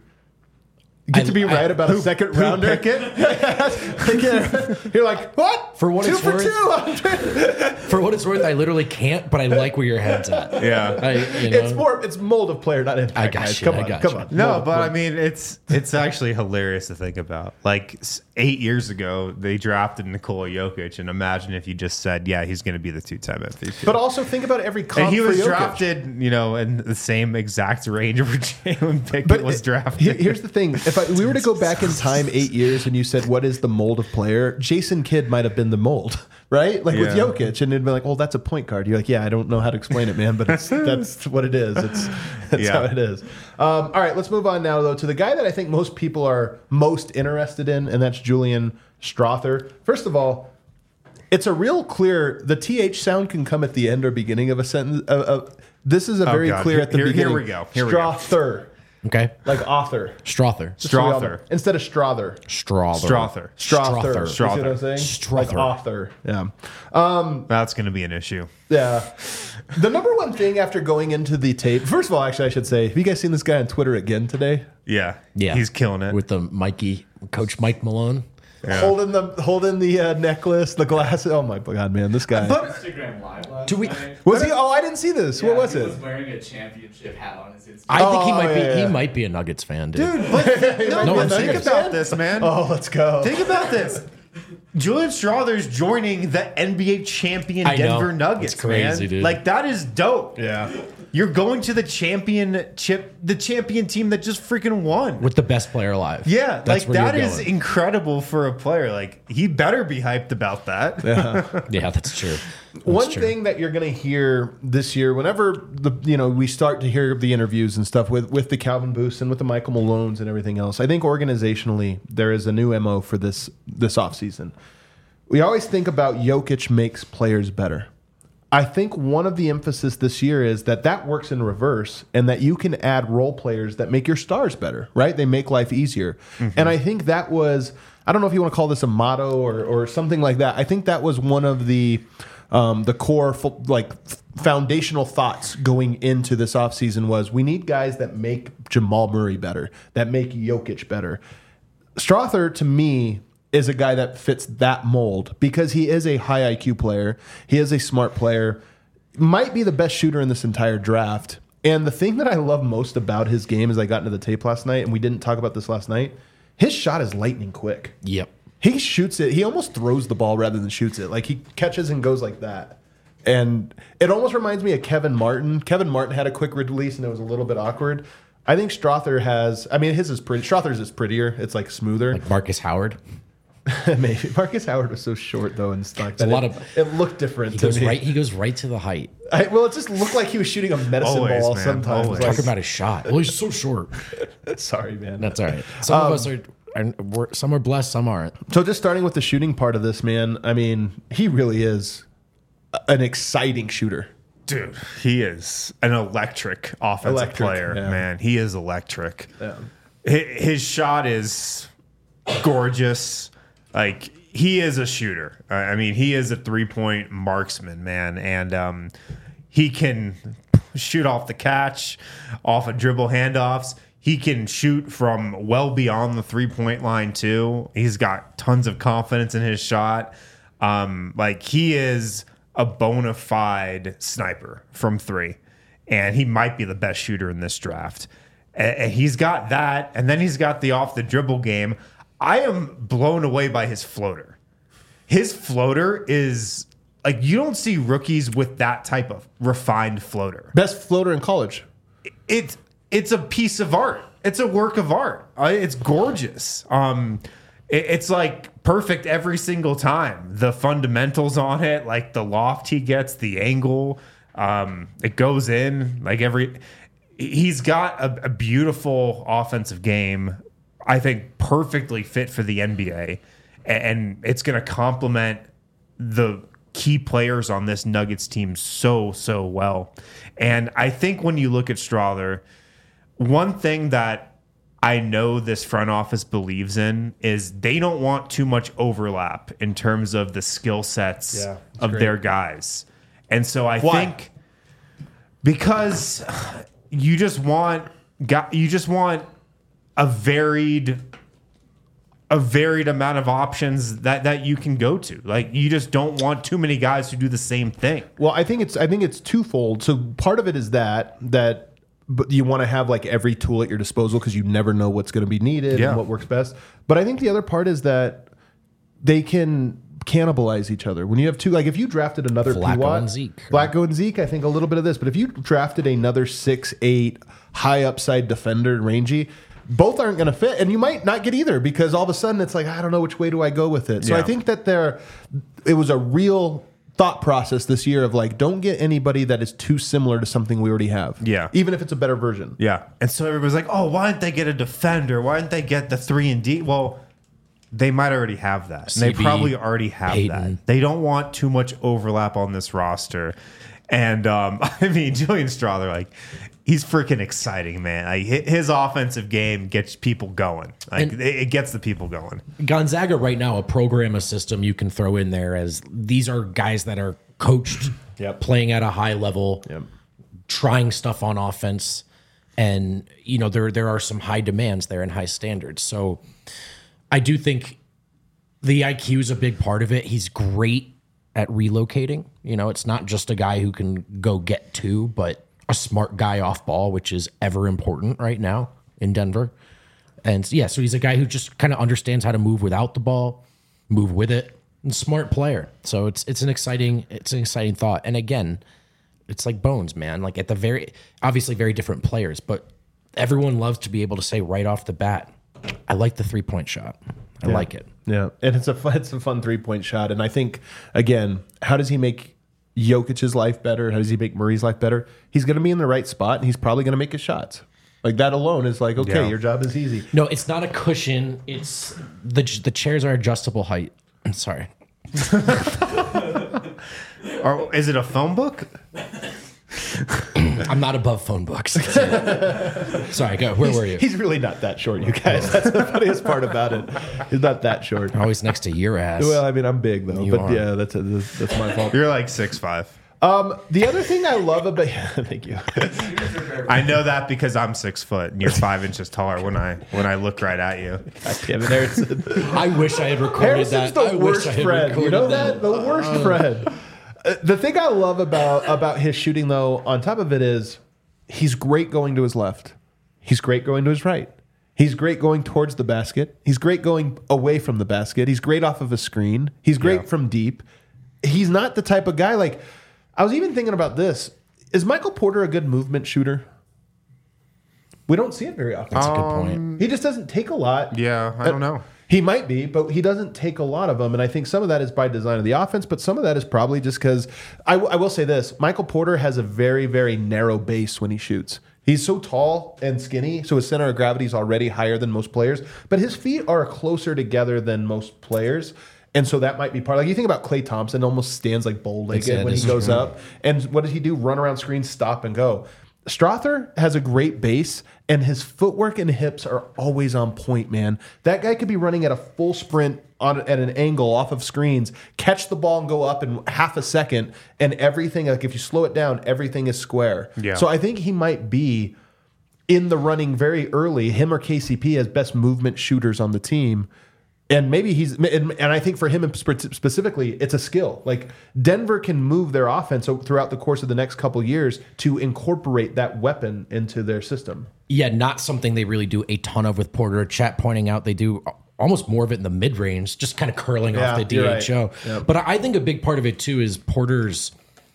You get I- to be I- right about who- a second who rounder. pick You're like, what? For what two it's for worth- two. For what it's worth, I literally can't, but I like where your head's at. Yeah. I, you know, It's more. It's mold of player, not impact. I got guys. you, Come I on, got come you. on. No, Mold, but mold. I mean, it's it's actually hilarious to think about. Like s- eight years ago, they drafted Nikola Jokic, and imagine if you just said, "Yeah, he's going to be the two-time M V P." But also think about every comp and he for was Jokic. drafted, you know, in the same exact range where Jalen Pickett But was it- drafted. he- Here's the thing: if I, we were to go back in time eight years, and you said, "What is the mold of player?" Jason Kidd might have been the mold, right? Like with Yeah. Jokic, and it'd be like, "Oh, that's a point guard." You're like, "Yeah, I don't know how to explain it, man, but it's, that's what it is. It's that's Yeah. how it is." Um, all right, let's move on now, though, to the guy that I think most people are most interested in, and that's Julian Strother. First of all, it's a real clear. The T H sound can come at the end or beginning of a sentence. Uh, uh, this is a very God. clear at the Here- here beginning. we go. Here we go. Strother, okay. like author. Strother. Just so we all know. Strother. Instead of Strother. Strother. Strother. Strother. You see Strother. what I'm saying? Strother. Like author. Yeah. That's going to be an issue. Yeah. The number one thing after going into the tape, first of all, actually, I should say, have you guys seen this guy on Twitter again today? Yeah, Yeah. he's killing it. With the Mikey, Coach Mike Malone. Yeah. Holding the holding the uh, necklace, the glasses. Oh my god, man, this guy. Instagram live last Do we- night. was he? Oh, I didn't see this. Yeah, what was he it? was wearing a championship hat on his Instagram. I think he Oh, might yeah, be. yeah. He might be a Nuggets fan, dude. Dude, but no, No, but I'm think serious. about this, man. Oh, let's go. Think about this. Julian Strother's joining the N B A champion I know. Denver Nuggets, It's crazy, man. dude. Like that is dope. Yeah. You're going to the championship, the champion team that just freaking won. With the best player alive. Yeah, That's like where that you're is going. incredible for a player. Like he better be hyped about that. Yeah, that's true. That's One true. thing that you're going to hear this year, whenever the you know we start to hear the interviews and stuff with with the Calvin Booths and with the Michael Malones and everything else, I think organizationally there is a new M O for this this offseason. We always think about Jokic makes players better. I think one of the emphasis this year is that that works in reverse and that you can add role players that make your stars better, right? They make life easier. And I think that was, I don't know if you want to call this a motto or, or something like that. I think that was one of the um, the core fo- like f- foundational thoughts going into this offseason was we need guys that make Jamal Murray better, that make Jokic better. Strother, to me, is a guy that fits that mold because he is a high I Q player. He is a smart player. Might be the best shooter in this entire draft. And the thing that I love most about his game as I got into the tape last night, and we didn't talk about this last night, his shot is lightning quick. Yep. he shoots it. He almost throws the ball rather than shoots it. Like he catches and goes like that. And it almost reminds me of Kevin Martin. Kevin Martin had a quick release and it was a little bit awkward. I think Strother has, I mean, his is pretty, Strother's is prettier. It's like smoother. Like Marcus Howard. Maybe. Marcus Howard was so short though and stuck. a lot of- it looked different He to goes me. right. He goes right to the height. I, well, it just looked like he was shooting a medicine Always, ball man, sometimes. always. Like, Talk about his shot. Well, he's so short. sorry, man. That's all right. Some of us are, are we're, some are blessed, some aren't. So just starting with the shooting part of this, man, I mean, he really is an exciting shooter. Dude, he is an electric offensive Electric, player, yeah. man. He is electric. Yeah. Hi- His shot is gorgeous. Like, he is a shooter. Uh, I mean, he is a three-point marksman, man. And um, he can shoot off the catch, off of dribble handoffs. He can shoot from well beyond the three-point line, too. He's got tons of confidence in his shot. Um, like, he is a bona fide sniper from three. And he might be the best shooter in this draft. And and he's got that. And then he's got the off-the-dribble game. I am blown away by his floater. His floater is like, you don't see rookies with that type of refined floater. Best floater in college. It's it's a piece of art. It's a work of art. Uh, It's gorgeous. Um, it- it's like perfect every single time. The fundamentals on it, like the loft he gets, the angle, um, it goes in. Like every, he's got a, a beautiful offensive game. I think perfectly fit for the N B A, and it's going to complement the key players on this Nuggets team so, so well. And I think when you look at Strother, one thing that I know this front office believes in is they don't want too much overlap in terms of the skill sets Yeah, that's of great. their guys. And so I Why? think because you just want got you just want a varied a varied amount of options that that you can go to. Like, you just don't want too many guys who do the same thing. Well, I think it's I think it's twofold. So part of it is that that but you want to have like every tool at your disposal because you never know what's going to be needed Yeah. and what works best. But I think the other part is that they can cannibalize each other. When you have two, like if you drafted another Flacco P-Watt, and Zeke. Flacco and Zeke, I think a little bit of this. But if you drafted another six, eight, high upside defender, rangy, both aren't going to fit, and you might not get either because all of a sudden it's like, I don't know which way do I go with it. So Yeah. I think that there, it was a real thought process this year of like, don't get anybody that is too similar to something we already have. Yeah. Even if it's a better version. Yeah. And so everybody's like, oh, why didn't they get a defender? Why didn't they get the three and D? Well, they might already have that. And they C B, probably already have Peyton. that. They don't want too much overlap on this roster. And um, I mean, Julian Strother, like, he's freaking exciting, man. Like, hi- his offensive game gets people going. Like, And- it, it gets the people going. Gonzaga right now, a program, a system you can throw in there as these are guys that are coached, Yep. playing at a high level, Yep. trying stuff on offense, and you know there there are some high demands there and high standards. So I do think the I Q is a big part of it. He's great at relocating. You know, it's not just a guy who can go get two, but a smart guy off ball, which is ever important right now in Denver. And yeah, so he's a guy who just kind of understands how to move without the ball, move with it, and smart player. So it's it's an exciting it's an exciting thought. And again, it's like Bones, man. Like at the very obviously very different players, but everyone loves to be able to say right off the bat, I like the three point shot. I Yeah. like it. Yeah, and it's a fun, it's a fun three point shot, and I think again, how does he make Jokic's life better? How does he make Murray's life better? He's going to be in the right spot, and he's probably going to make his shots. Like that alone is like, okay, Yeah. your job is easy. No, it's not a cushion. It's the the chairs are adjustable height. I'm sorry. Or is it a phone book? I'm not above phone books. Sorry, go. Where were you? He's really not that short, you guys. That's the funniest part about it. He's not that short. Always next to your ass. Well, I mean, I'm big though, You but are. yeah, that's a, that's, that's my fault. You're like six five. Um, the other thing I love about thank you. I know that because I'm six foot and you're five inches taller when I when I look right at you. God damn it, Harrison. I wish I had recorded Harrison's that. the I wish worst I had friend. You recorded know that? The worst friend. Uh, the thing I love about about his shooting, though, on top of it is he's great going to his left. He's great going to his right. He's great going towards the basket. He's great going away from the basket. He's great off of a screen. He's great Yeah. from deep. He's not the type of guy like I was even thinking about this. Is Michael Porter a good movement shooter? We don't see it very often. That's a good point. He just doesn't take a lot. Yeah, I don't know. He might be, but he doesn't take a lot of them. And I think some of that is by design of the offense, but some of that is probably just because I, w- I will say this Michael Porter has a very, very narrow base when he shoots. He's so tall and skinny, so his center of gravity is already higher than most players, but his feet are closer together than most players. And so that might be part. Like you think about Klay Thompson, almost stands like bow-legged Yeah, when he this is goes true. up. And what does he do? Run around screens, stop and go. Strother has a great base, and his footwork and hips are always on point, man. That guy could be running at a full sprint on at an angle off of screens, catch the ball and go up in half a second, and everything, like if you slow it down, everything is square. Yeah. So I think he might be in the running very early, him or K C P as best movement shooters on the team. And maybe he's, and, and I think for him spe- specifically, it's a skill. Like Denver can move their offense throughout the course of the next couple years to incorporate that weapon into their system. Yeah, not something they really do a ton of with Porter. Chat pointing out they do almost more of it in the mid range, just kind of curling Yeah, off the you're D right. H O. Yep. But I think a big part of it too is Porter's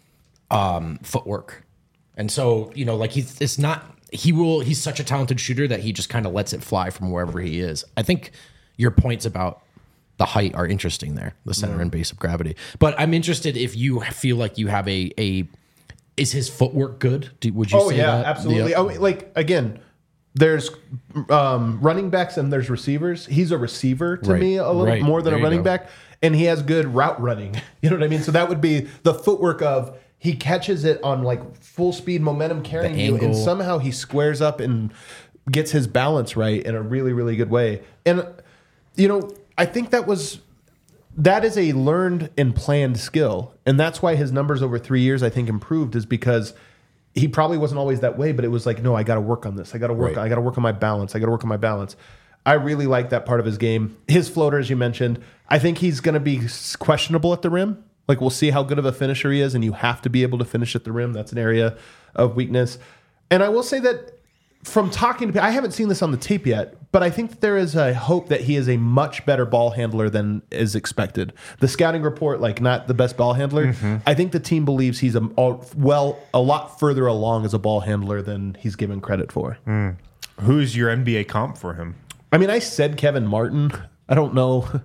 um, footwork. And so, you know, like he's it's not he will he's such a talented shooter that he just kind of lets it fly from wherever he is. I think your points about the height are interesting there, the center and base of gravity. But I'm interested if you feel like you have a a is his footwork good? Do, would you Oh say yeah, that? absolutely. Yeah. Oh, like again, there's um, running backs and there's receivers. He's a receiver to Right, me a little right. more than There a you running go. back, and he has good route running. You know what I mean? So that would be the footwork of he catches it on like full speed momentum carrying The you, and angle. somehow he squares up and gets his balance right in a really really good way. And you know, I think that was. That is a learned and planned skill. And that's why his numbers over three years, I think, improved, is because he probably wasn't always that way, but it was like, no, I got to work on this. I got to work. Right. I got to work on my balance. I got to work on my balance. I really like that part of his game. His floater, as you mentioned, I think he's going to be questionable at the rim. Like, we'll see how good of a finisher he is, and you have to be able to finish at the rim. That's an area of weakness. And I will say that from talking to people, I haven't seen this on the tape yet, but I think that there is a hope that he is a much better ball handler than is expected. The scouting report, like not the best ball handler. I think the team believes he's a all, well a lot further along as a ball handler than he's given credit for. Who's your N B A comp for him? I mean, I said Kevin Martin. I don't know.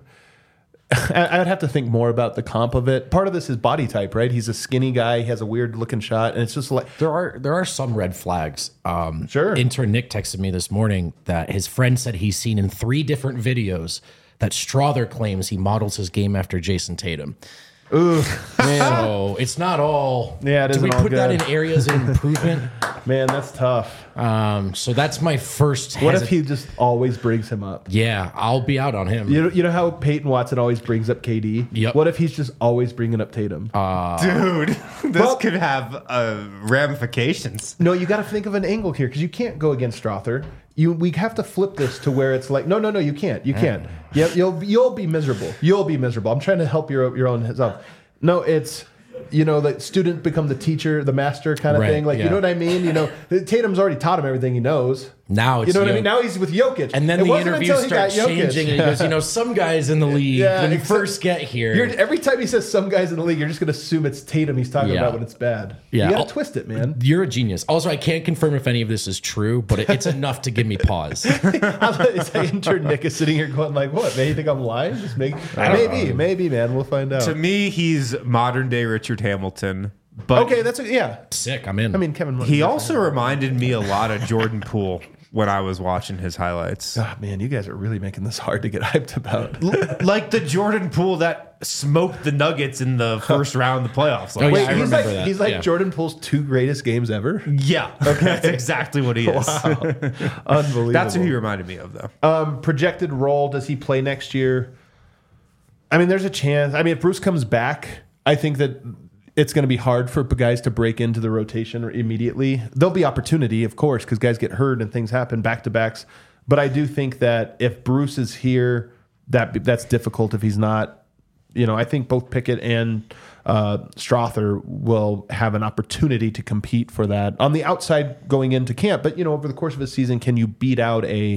I- I'd have to think more about the comp of it. Part of this is body type, right? He's a skinny guy. He has a weird looking shot, and it's just like There are there are some red flags. Um, Sure. Intern Nick texted me this morning that his friend said he's seen in three different videos that Strother claims he models his game after Jason Tatum. So it's not all. Yeah, it Do we isn't all put that good. in areas of improvement? man, that's tough. Um, so that's my first. What hesi- if he just always brings him up? Yeah, I'll be out on him. You know, you know how Peyton Watson always brings up K D? Yep. What if he's just always bringing up Tatum? Dude, this Well- could have uh, ramifications. no, you got to think of an angle here because you can't go against Strother. You, we have to flip this to where it's like, no, no, no, you can't. You can't. Yeah, you'll you'll be miserable. You'll be miserable. I'm trying to help your your own self. No, it's you know, the student become the teacher, the master kind of Right, thing. Like, you yeah. know what I mean? You know, Tatum's already taught him everything he knows. Now it's You know what I Jokic. mean? Now he's with Jokic. And then It the wasn't interview until he got starts Jokic. changing, and he goes, you know, some guys in the league Yeah, when you except- first get here. You're, every time he says some guys in the league, you're just going to assume it's Tatum he's talking Yeah. about when it's bad. Yeah. You got I'll- to twist it, man. You're a genius. Also, I can't confirm if any of this is true, but it, it's enough to give me pause. It's like intern Nick is sitting here going like, what? Man, you think I'm lying? Just make, maybe, maybe, man. We'll find out. To me, he's modern day Richard Hamilton. But Okay, that's a, yeah. Sick. I'm in. I mean, Kevin. he also reminded me a lot of Jordan Poole when I was watching his highlights. Ah, man, you guys are really making this hard to get hyped about. Like the Jordan Poole that smoked the Nuggets in the first round of the playoffs. Like, Oh, yeah, Wait, I he's remember like that. he's like Yeah. Jordan Poole's two greatest games ever. yeah, that's exactly what he is. Unbelievable. That's who he reminded me of, though. Um, projected role, does he play next year? I mean, there's a chance. I mean, if Bruce comes back, I think that it's going to be hard for guys to break into the rotation immediately. There'll be opportunity, of course, because guys get hurt and things happen back to backs. But I do think that if Bruce is here, that that's difficult if he's not. You know, I think both Pickett and uh, Strother will have an opportunity to compete for that on the outside going into camp. But, you know, over the course of a season, can you beat out a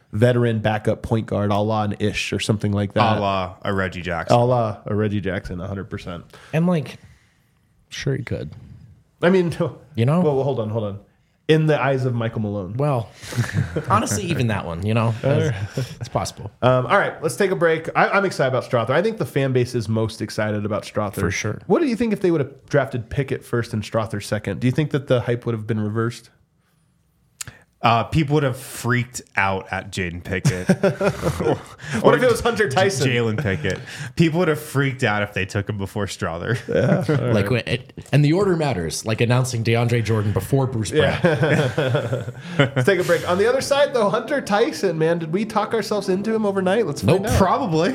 veteran backup point guard, a la an Ish or something like that. A la a Reggie Jackson. A la a Reggie Jackson, one hundred percent. And like, sure he could. I mean, You know? Well, hold on, hold on. In the eyes of Michael Malone. Well, honestly, even that one, you know, it's, it's possible. Um, all right, let's take a break. I, I'm excited about Strother. I think the fan base is most excited about Strother. For sure. What do you think if they would have drafted Pickett first and Strother second? Do you think that the hype would have been reversed? Uh, people would have freaked out at Jaden Pickett. What if it was Hunter Tyson? Jalen Pickett. People would have freaked out if they took him before Strother. Like, it, and the order matters. Like announcing DeAndre Jordan before Bruce Brown. Let's take a break. On the other side, though, Hunter Tyson, man, did we talk ourselves into him overnight? Let's find Nope. out. Probably.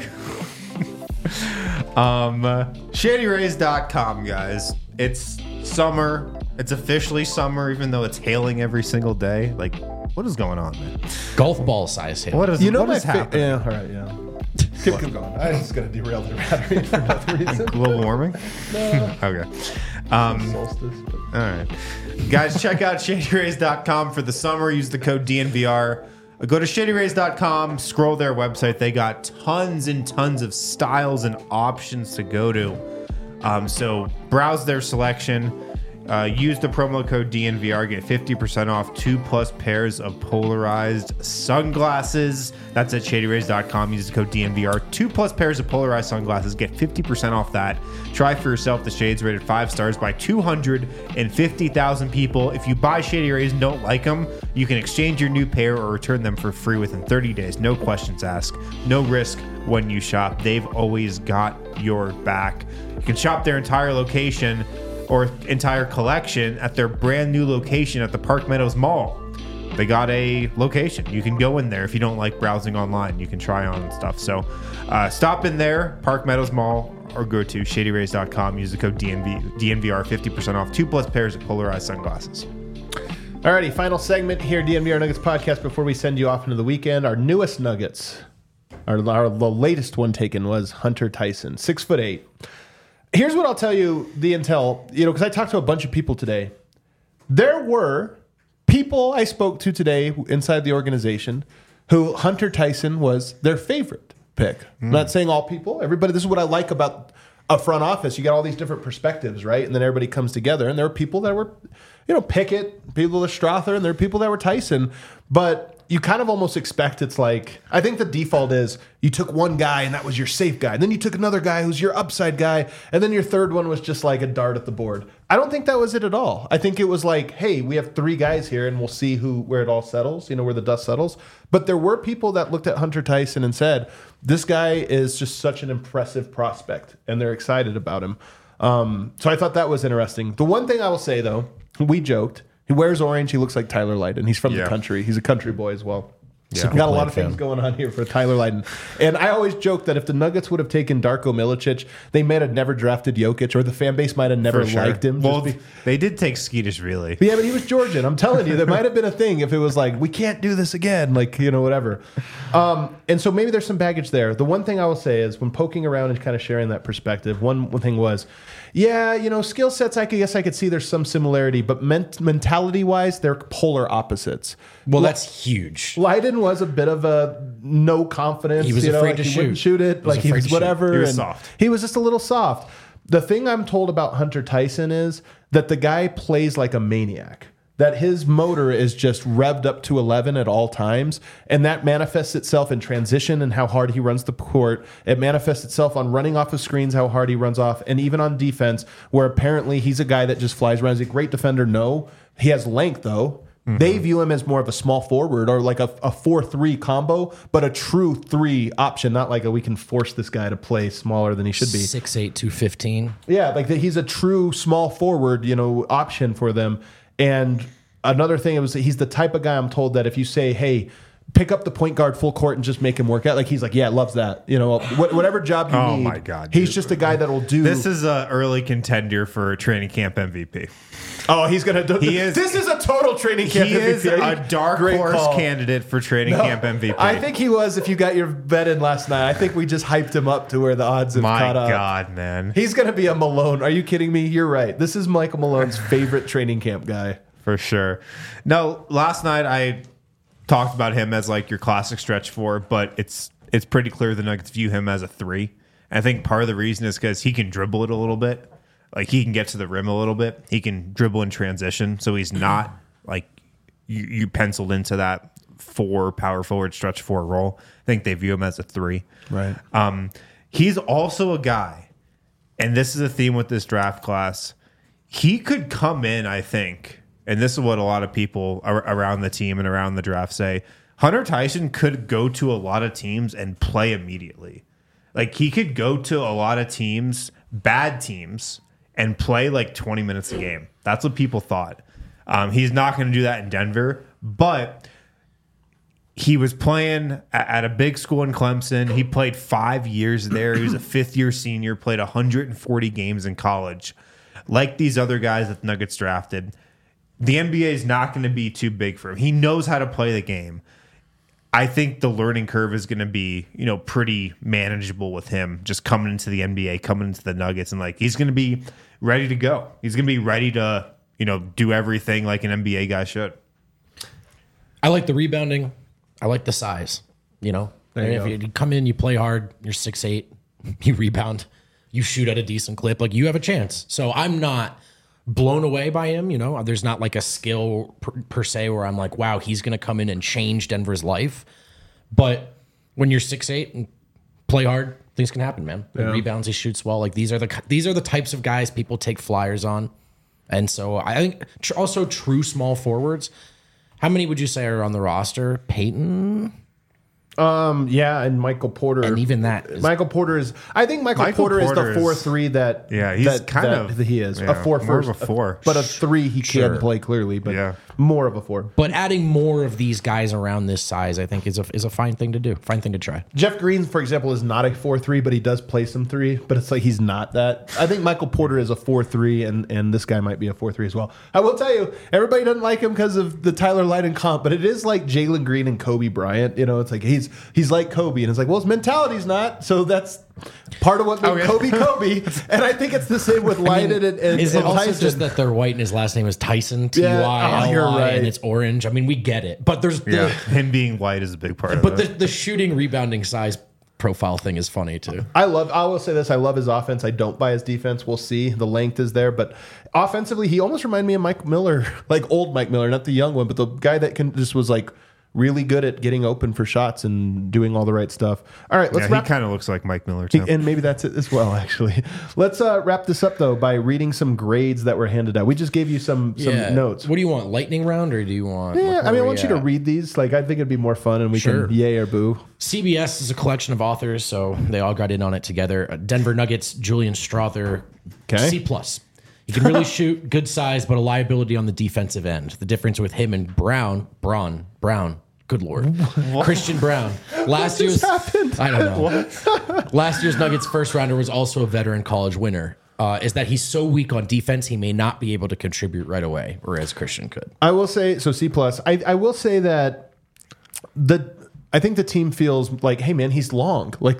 um, uh, Shady Rays dot com, guys. It's summer. It's officially summer, even though it's hailing every single day. Like, what is going on, man? Golf ball size hail. What is, You know what my is fa- happening? Yeah, all right, yeah. Keep, keep going. I was just going to derail the battery for no reason. Global warming? No. Okay. Um, Solstice. But. all right. Guys, check out Shady Rays dot com for the summer. Use the code D N V R. Go to Shady Rays dot com, scroll their website. They got tons and tons of styles and options to go to. Um, so browse their selection. Uh, use the promo code D N V R. Get fifty percent off two plus pairs of polarized sunglasses. That's at Shady Rays dot com. Use the code D N V R. Two plus pairs of polarized sunglasses. Get fifty percent off that. Try for yourself the shades rated five stars by two hundred fifty thousand people. If you buy Shady Rays and don't like them, you can exchange your new pair or return them for free within thirty days. No questions asked. No risk when you shop. They've always got your back. You can shop their entire location or entire collection at their brand new location at the Park Meadows Mall. They got a location. You can go in there if you don't like browsing online. You can try on and stuff. So uh, stop in there, Park Meadows Mall, or go to Shady Rays dot com. Use the code D N V, D N V R, fifty percent off two plus pairs of polarized sunglasses. Alrighty, final segment here, D N V R Nuggets podcast. Before we send you off into the weekend, our newest Nuggets, our, our the latest one taken was Hunter Tyson, six foot eight. Here's what I'll tell you, the intel, you know, because I talked to a bunch of people today. There were people I spoke to today inside the organization who Hunter Tyson was their favorite pick. Mm. I'm not saying all people, everybody. This is what I like about a front office. You got all these different perspectives, right? And then everybody comes together. And there were people that were, you know, Pickett, people that were Strother, and there were people that were Tyson. But you kind of almost expect it's like, I think the default is you took one guy and that was your safe guy. And then you took another guy who's your upside guy. And then your third one was just like a dart at the board. I don't think that was it at all. I think it was like, hey, we have three guys here and we'll see who where it all settles, you know, where the dust settles. But there were people that looked at Hunter Tyson and said, this guy is just such an impressive prospect. And they're excited about him. Um, so I thought that was interesting. The one thing I will say, though, we joked, he wears orange. He looks like Tyler Lydon. He's from Yeah. the country. He's a country boy as well. Yeah. We got a lot of Fan. things going on here for Tyler Lydon. And I always joke that if the Nuggets would have taken Darko Milicic, they might have never drafted Jokic, or the fan base might have never For sure. liked him. Well, just be- they did take Skeetish, really. yeah, but he was Georgian. I'm telling you, there might have been a thing if it was like, we can't do this again, like, you know, whatever. Um, and so maybe there's some baggage there. The one thing I will say is when poking around and kind of sharing that perspective, one, one thing was, yeah, you know, skill sets, I could, guess I could see there's some similarity, but ment- mentality-wise, they're polar opposites. Well, that's huge. Lydon was a bit of a no confidence. He was you know, afraid like to he wouldn't shoot. shoot it. He was Like he afraid was to shoot. whatever. He was and soft. He was just a little soft. The thing I'm told about Hunter Tyson is that the guy plays like a maniac. That his motor is just revved up to eleven at all times. And that manifests itself in transition and how hard he runs the court. It manifests itself on running off of screens, how hard he runs off. And even on defense, where apparently he's a guy that just flies around. He's a great defender. No. He has length, though. Mm-hmm. They view him as more of a small forward or like a, a four three combo, but a true three option, not like a we can force this guy to play smaller than he should be. six eight, two fifteen Yeah, like that he's a true small forward, you know, option for them. And another thing, it was he's the type of guy I'm told that if you say, hey, pick up the point guard full court and just make him work out, like he's like, yeah, loves that. You know, wh- whatever job you Oh need. my God, he's dude. just a guy that'll do. This is an early contender for training camp M V P. oh, he's gonna do. He is- This is a total training camp. He is M V P. a dark Great horse call. candidate for training No, camp M V P. I think he was. If you got your bet in last night, I think we just hyped him up to where the odds have My caught up. God, man. He's going to be a Malone. Are you kidding me? You're right. This is Michael Malone's favorite training camp guy. For sure. No, last night I talked about him as like your classic stretch four, but it's it's pretty clear the Nuggets view him as a three. And I think part of the reason is because he can dribble it a little bit. Like he can get to the rim a little bit. He can dribble in transition. So he's not like you, you penciled into that four power forward stretch four role. I think they view him as a three. Right. Um, he's also a guy, and this is a theme with this draft class. He could come in, I think, and this is what a lot of people ar- around the team and around the draft say. Hunter Tyson could go to a lot of teams and play immediately. Like he could go to a lot of teams, bad teams, and play like twenty minutes a game. That's what people thought. Um, he's not going to do that in Denver, but he was playing at, at a big school in Clemson. He played five years there. He was a fifth-year senior, played one hundred forty games in college. Like these other guys that the Nuggets drafted, the N B A is not going to be too big for him. He knows how to play the game. I think the learning curve is going to be, you know, pretty manageable with him just coming into the N B A, coming into the Nuggets, and like he's going to be ready to go. He's going to be ready to, you know, do everything like an N B A guy should. I like the rebounding. I like the size. You know, There you if go. you come in, you play hard. You're six eight. You rebound. You shoot at a decent clip. Like you have a chance. So I'm not blown away by him. You know, there's not like a skill per, per se where I'm like, wow, he's going to come in and change Denver's life. But when you're six eight and play hard, things can happen, man. He rebounds, he shoots well. Like these are the these are the types of guys people take flyers on. And so I think tr- also true small forwards. How many would you say are on the roster? Peyton? Um, yeah, and Michael Porter. And even that is- Michael Porter is. I think Michael, Michael Porter, Porter is the four is- three that. Yeah, he's that, kind that of- he is yeah, a four more of first, a four. but a three he Sure. can play clearly, but Yeah. more of a four. But adding more of these guys around this size, I think, is a is a fine thing to do. Fine thing to try. Jeff Green, for example, is not a four three, but he does play some three. But it's like he's not that. I think Michael Porter is a four three, and and this guy might be a four three as well. I will tell you, everybody doesn't like him because of the Tyler Lydon comp, but it is like Jalen Green and Kobe Bryant. You know, it's like he's he's like Kobe, and it's like, well, his mentality's not. So that's part of what made Okay. Kobe Kobe. And I think it's the same with Lydon and, and, Is it and also Tyson. just that they're white and his last name is Tyson? T Yeah. Y Oh, you're L Y, right. and it's orange. I mean, we get it. But there's Yeah, the him being white is a big part but of the, it. the shooting rebounding size profile thing is funny too. I love. I will say this: I love his offense. I don't buy his defense. We'll see. The length is there, but offensively, he almost reminded me of Mike Miller, like old Mike Miller, not the young one, but the guy that can just was like really good at getting open for shots and doing all the right stuff. All right, let's Yeah, he wrap. kind of looks like Mike Miller too. And maybe that's it as well. Actually, let's uh, wrap this up though by reading some grades that were handed out. We just gave you some some notes. What do you want? Lightning round or do you want? Yeah, where I mean, I we want you to at? read these. Like, I think it'd be more fun, and we Sure. can yay or boo. C B S is a collection of authors, so they all got in on it together. Uh, Denver Nuggets, Julian Strother, Okay. C plus. He can really shoot, good size, but a liability on the defensive end. The difference with him and Brown, Braun, Brown, good lord, Christian Brown. Last year's, happened? I don't know. Last year's Nuggets first rounder was also a veteran college winner. Uh, is that he's so weak on defense, he may not be able to contribute right away, whereas Christian could. I will say so. C plus. I, I will say that the I think the team feels like, hey man, he's long. Like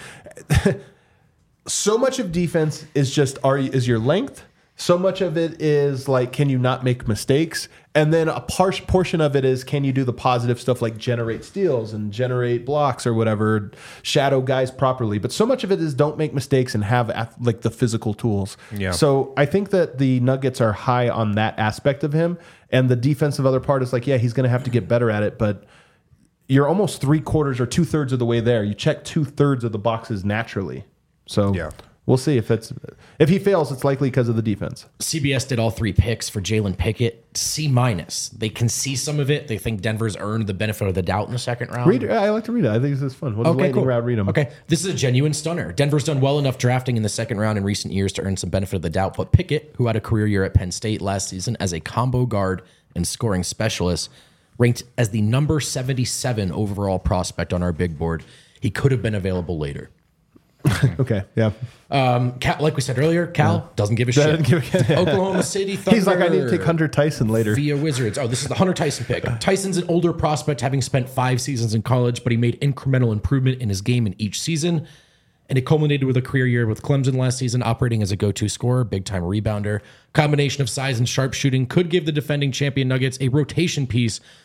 so much of defense is just are you- is your length. So much of it is like, can you not make mistakes? And then a par- portion of it is, can you do the positive stuff like generate steals and generate blocks or whatever, shadow guys properly? But so much of it is don't make mistakes and have ath- like the physical tools. Yeah. So I think that the Nuggets are high on that aspect of him. And the defensive other part is like, yeah, he's going to have to get better at it. But you're almost three quarters or two thirds of the way there. You check two thirds of the boxes naturally. So Yeah. we'll see if it's if he fails, it's likely because of the defense. C B S did all three picks for Jalen Pickett. C minus. They can see some of it. They think Denver's earned the benefit of the doubt in the second round. Read, I like to read it. I think this is fun. We'll just lightning round read them. Okay, this is a genuine stunner. Denver's done well enough drafting in the second round in recent years to earn some benefit of the doubt. But Pickett, who had a career year at Penn State last season as a combo guard and scoring specialist, ranked as the number seventy-seven overall prospect on our big board. He could have been available later. Okay. Yeah. Um, Cal, like we said earlier, Cal doesn't give a shit. Doesn't give a- Oklahoma City Thunder. He's like, I need to take Hunter Tyson later. Via Wizards. Oh, this is the Hunter Tyson pick. Tyson's an older prospect, having spent five seasons in college, but he made incremental improvement in his game in each season. And it culminated with a career year with Clemson last season, operating as a go-to scorer, big-time rebounder. Combination of size and sharpshooting could give the defending champion Nuggets a rotation piece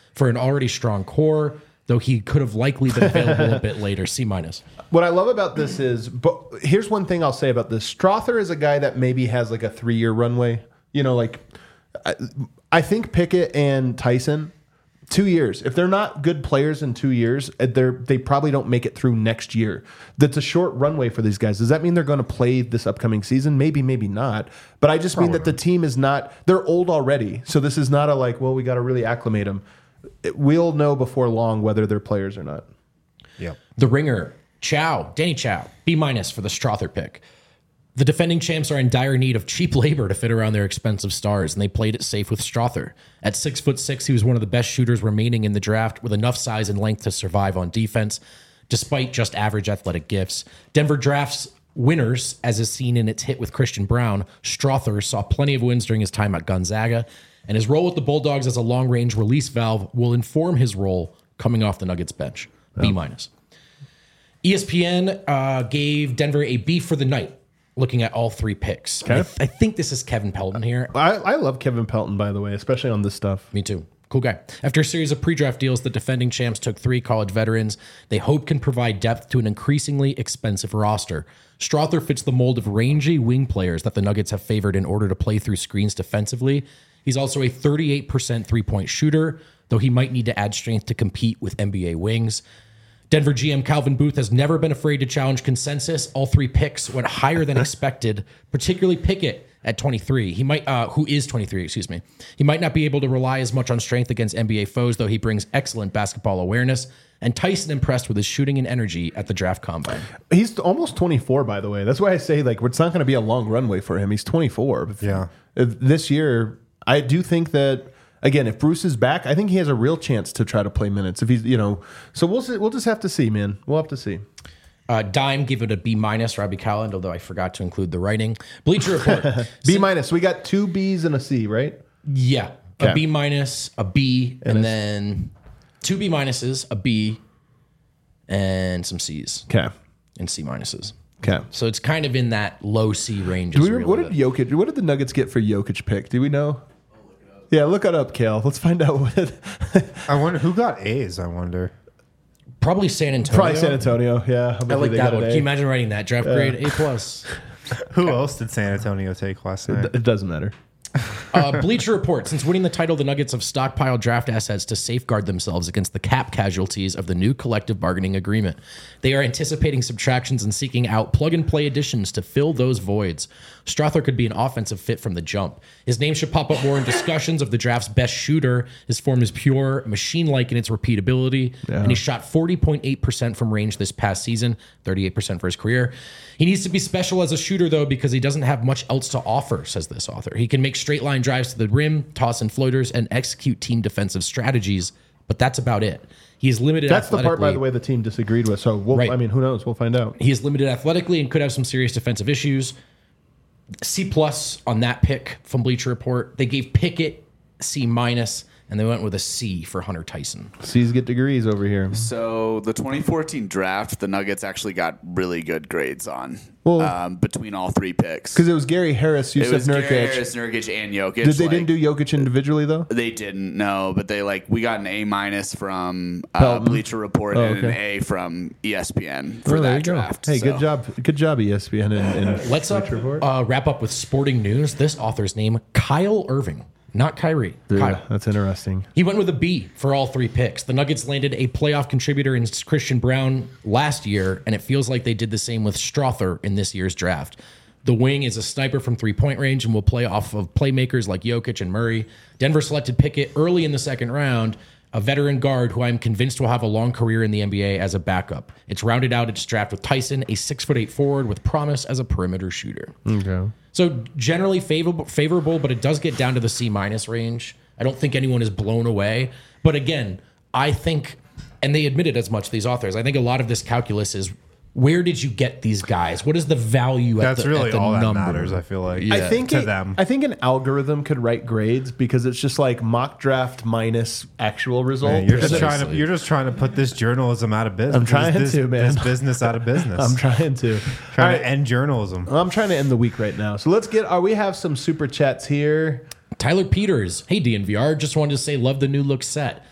for an already strong core, though he could have likely been available a bit later. C minus. What I love about this is, but here's one thing I'll say about this. Strother is a guy that maybe has like a three year runway. You know, like I, I think Pickett and Tyson, two years. If they're not good players in two years, they're they probably don't make it through next year. That's a short runway for these guys. Does that mean they're going to play this upcoming season? Maybe, maybe not. But I just probably mean that the team is not. They're old already, so this is not a like. Well, we got to really acclimate them. It, we'll know before long whether they're players or not. Yeah. The Ringer. Chow, Danny Chow, B minus for the Strother pick. The defending champs are in dire need of cheap labor to fit around their expensive stars, and they played it safe with Strother. At six foot six, he was one of the best shooters remaining in the draft, with enough size and length to survive on defense, despite just average athletic gifts. Denver drafts winners, as is seen in its hit with Christian Brown. Strother saw plenty of wins during his time at Gonzaga, and his role with the Bulldogs as a long-range release valve will inform his role coming off the Nuggets bench. B minus. E S P N uh, gave Denver a B for the night, looking at all three picks. Okay. I, th- I think this is Kevin Pelton here. I, I love Kevin Pelton, by the way, especially on this stuff. Me too. Cool guy. After a series of pre-draft deals, the defending champs took three college veterans they hope can provide depth to an increasingly expensive roster. Strother fits the mold of rangy wing players that the Nuggets have favored in order to play through screens defensively. He's also a thirty-eight percent three-point shooter, though he might need to add strength to compete with N B A wings. Denver G M Calvin Booth has never been afraid to challenge consensus. All three picks went higher than expected, particularly Pickett at twenty-three. He might, uh, who is twenty-three, excuse me. He might not be able to rely as much on strength against N B A foes, though he brings excellent basketball awareness. And Tyson impressed with his shooting and energy at the draft combine. He's almost twenty-four, by the way. That's why I say like it's not going to be a long runway for him. He's twenty-four. Yeah. If this year, I do think that. Again, if Bruce is back, I think he has a real chance to try to play minutes. If he's, you know, so we'll see, we'll just have to see, man. We'll have to see. Uh, Dime gave it a B minus. Robbie Calland, although I forgot to include the writing. Bleacher Report. B minus. We got two B's and a C, right? Yeah, Okay. a B minus, a B, and, And a- then two B minuses, a B, and some C's Okay. and C minuses. Okay. So it's kind of in that low C range. Do is we, really what did the- Jokic? What did the Nuggets get for Jokic pick? Do we know? Yeah, look it up, Kale. Let's find out what. I wonder who got A's. I wonder. Probably San Antonio. Probably San Antonio. Yeah, I like they that got one. an Can you A. imagine writing that draft grade A plus? Who else did San Antonio take last night? It doesn't matter. Uh, Bleacher Report. Since winning the title, the Nuggets have stockpiled draft assets to safeguard themselves against the cap casualties of the new collective bargaining agreement. They are anticipating subtractions and seeking out plug-and-play additions to fill those voids. Strother could be an offensive fit from the jump. His name should pop up more in discussions of the draft's best shooter. His form is pure, machine-like in its repeatability, and he shot forty point eight percent from range this past season, thirty-eight percent for his career. He needs to be special as a shooter, though, because he doesn't have much else to offer, says this author. He can make straight line drives to the rim, toss in floaters, and execute team defensive strategies, but that's about it. He is limited That's the part, by athletically. the way, the team disagreed with. So, we'll, Right. I mean, who knows? We'll find out. He is limited athletically and could have some serious defensive issues. C plus on that pick from Bleacher Report. They gave Pickett C minus, and they went with a C for Hunter Tyson. C's get degrees over here. So the twenty fourteen draft, the Nuggets actually got really good grades on Well- um, between all three picks. Because it was Gary Harris, It Yusuf was Gary Nurkic. Harris, Nurkic, and Jokic. Did they like, didn't do Jokic individually though? They didn't, no, but they like we got an A minus from uh, Pelton. Bleacher Report Oh, and an okay. A from E S P N for Oh, there that you go. draft. Hey, So- good job, good job, E S P N and, and Let's up, Bleacher Report. uh, wrap up with sporting news. This author's name, Kyle Irving, not Kyrie. Dude, Kyle. that's interesting. He went with a B for all three picks. The Nuggets landed a playoff contributor in Christian Brown last year, and it feels like they did the same with Strother in this year's draft. The wing is a sniper from three-point range and will play off of playmakers like Jokic and Murray. Denver selected Pickett early in the second round, a veteran guard who I'm convinced will have a long career in the N B A as a backup. It's rounded out its draft with Tyson, a six foot eight forward with promise as a perimeter shooter. Okay. So generally favorable, favorable, but it does get down to the C minus range. I don't think anyone is blown away. But again, I think, and they admitted as much, these authors, I think a lot of this calculus is where did you get these guys? What is the value at That's the, really at the all number? that matters. I feel like I think to it- them. I think an algorithm could write grades because it's just like mock draft minus actual result. Man, you're just Precisely. trying to you're just trying to put this journalism out of business. I'm trying this, to, man. This business out of business. I'm trying to. trying All right. to end journalism. I'm trying to end the week right now. So let's get. Are we have some super chats here? Tyler Peters. Hey, D N V R. Just wanted to say, love the new look set.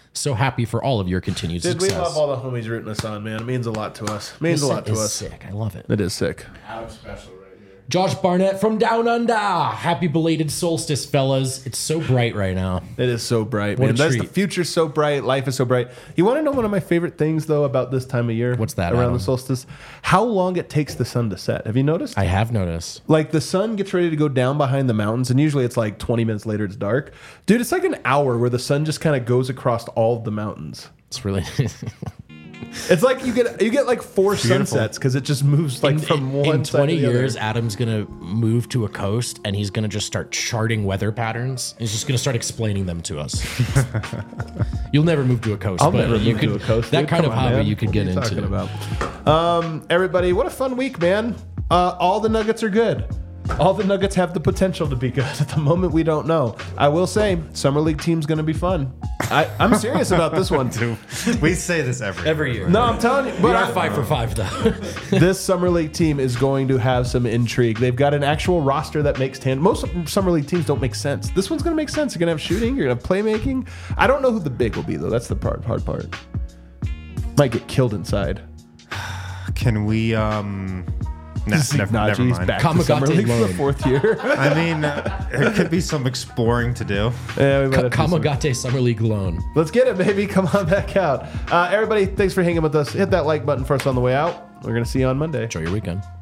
So happy for all of your continued Dude, we success. love all the homies rooting us on, man. It means a lot to us. It means This a lot to is us. sick. I love it. It is sick. Adam special right here. Josh Barnett from Down Under. Happy belated solstice, fellas. It's so bright right now. It is so bright, What man. a That's the treat. future's so bright. Life is so bright. You want to know one of my favorite things, though, about this time of year? What's that, Around Adam? the solstice? How long it takes the sun to set. Have you noticed? I have noticed. Like the sun gets ready to go down behind the mountains, and usually it's like twenty minutes later it's dark. Dude, it's like an hour where the sun just kind of goes across all of the mountains. It's really It's like you get you get like four beautiful. sunsets because it just moves like from one in side twenty to the other. years. Adam's gonna move to a coast and he's gonna just start charting weather patterns. He's just gonna start explaining them to us. You'll never move to a coast. I'll but never you move could, to a coast. That dude. kind Come of on, hobby man. you could What get are you into. talking about? Um, everybody, what a fun week, man! Uh, all the Nuggets are good. All the Nuggets have the potential to be good. At the moment, we don't know. I will say, summer league team's going to be fun. I, I'm serious about this one. We say this every Every year. No, I'm telling you. We But are I- five for five though. this summer league team is going to have some intrigue. They've got an actual roster that makes tan. Most summer league teams don't make sense. This one's going to make sense. You're going to have shooting. You're going to have playmaking. I don't know who the big will be though. That's the part, hard part. Might get killed inside. Can we? Um, nah, Zeke never, never Najee's mind. back to Kamagate summer league for the loan. fourth year. I mean, uh, there could be some exploring to do. Yeah, we might have to do some- Kamagate Summer League loan. Let's get it, baby. Come on back out. Uh, everybody, thanks for hanging with us. Hit that like button for us on the way out. We're going to see you on Monday. Enjoy your weekend.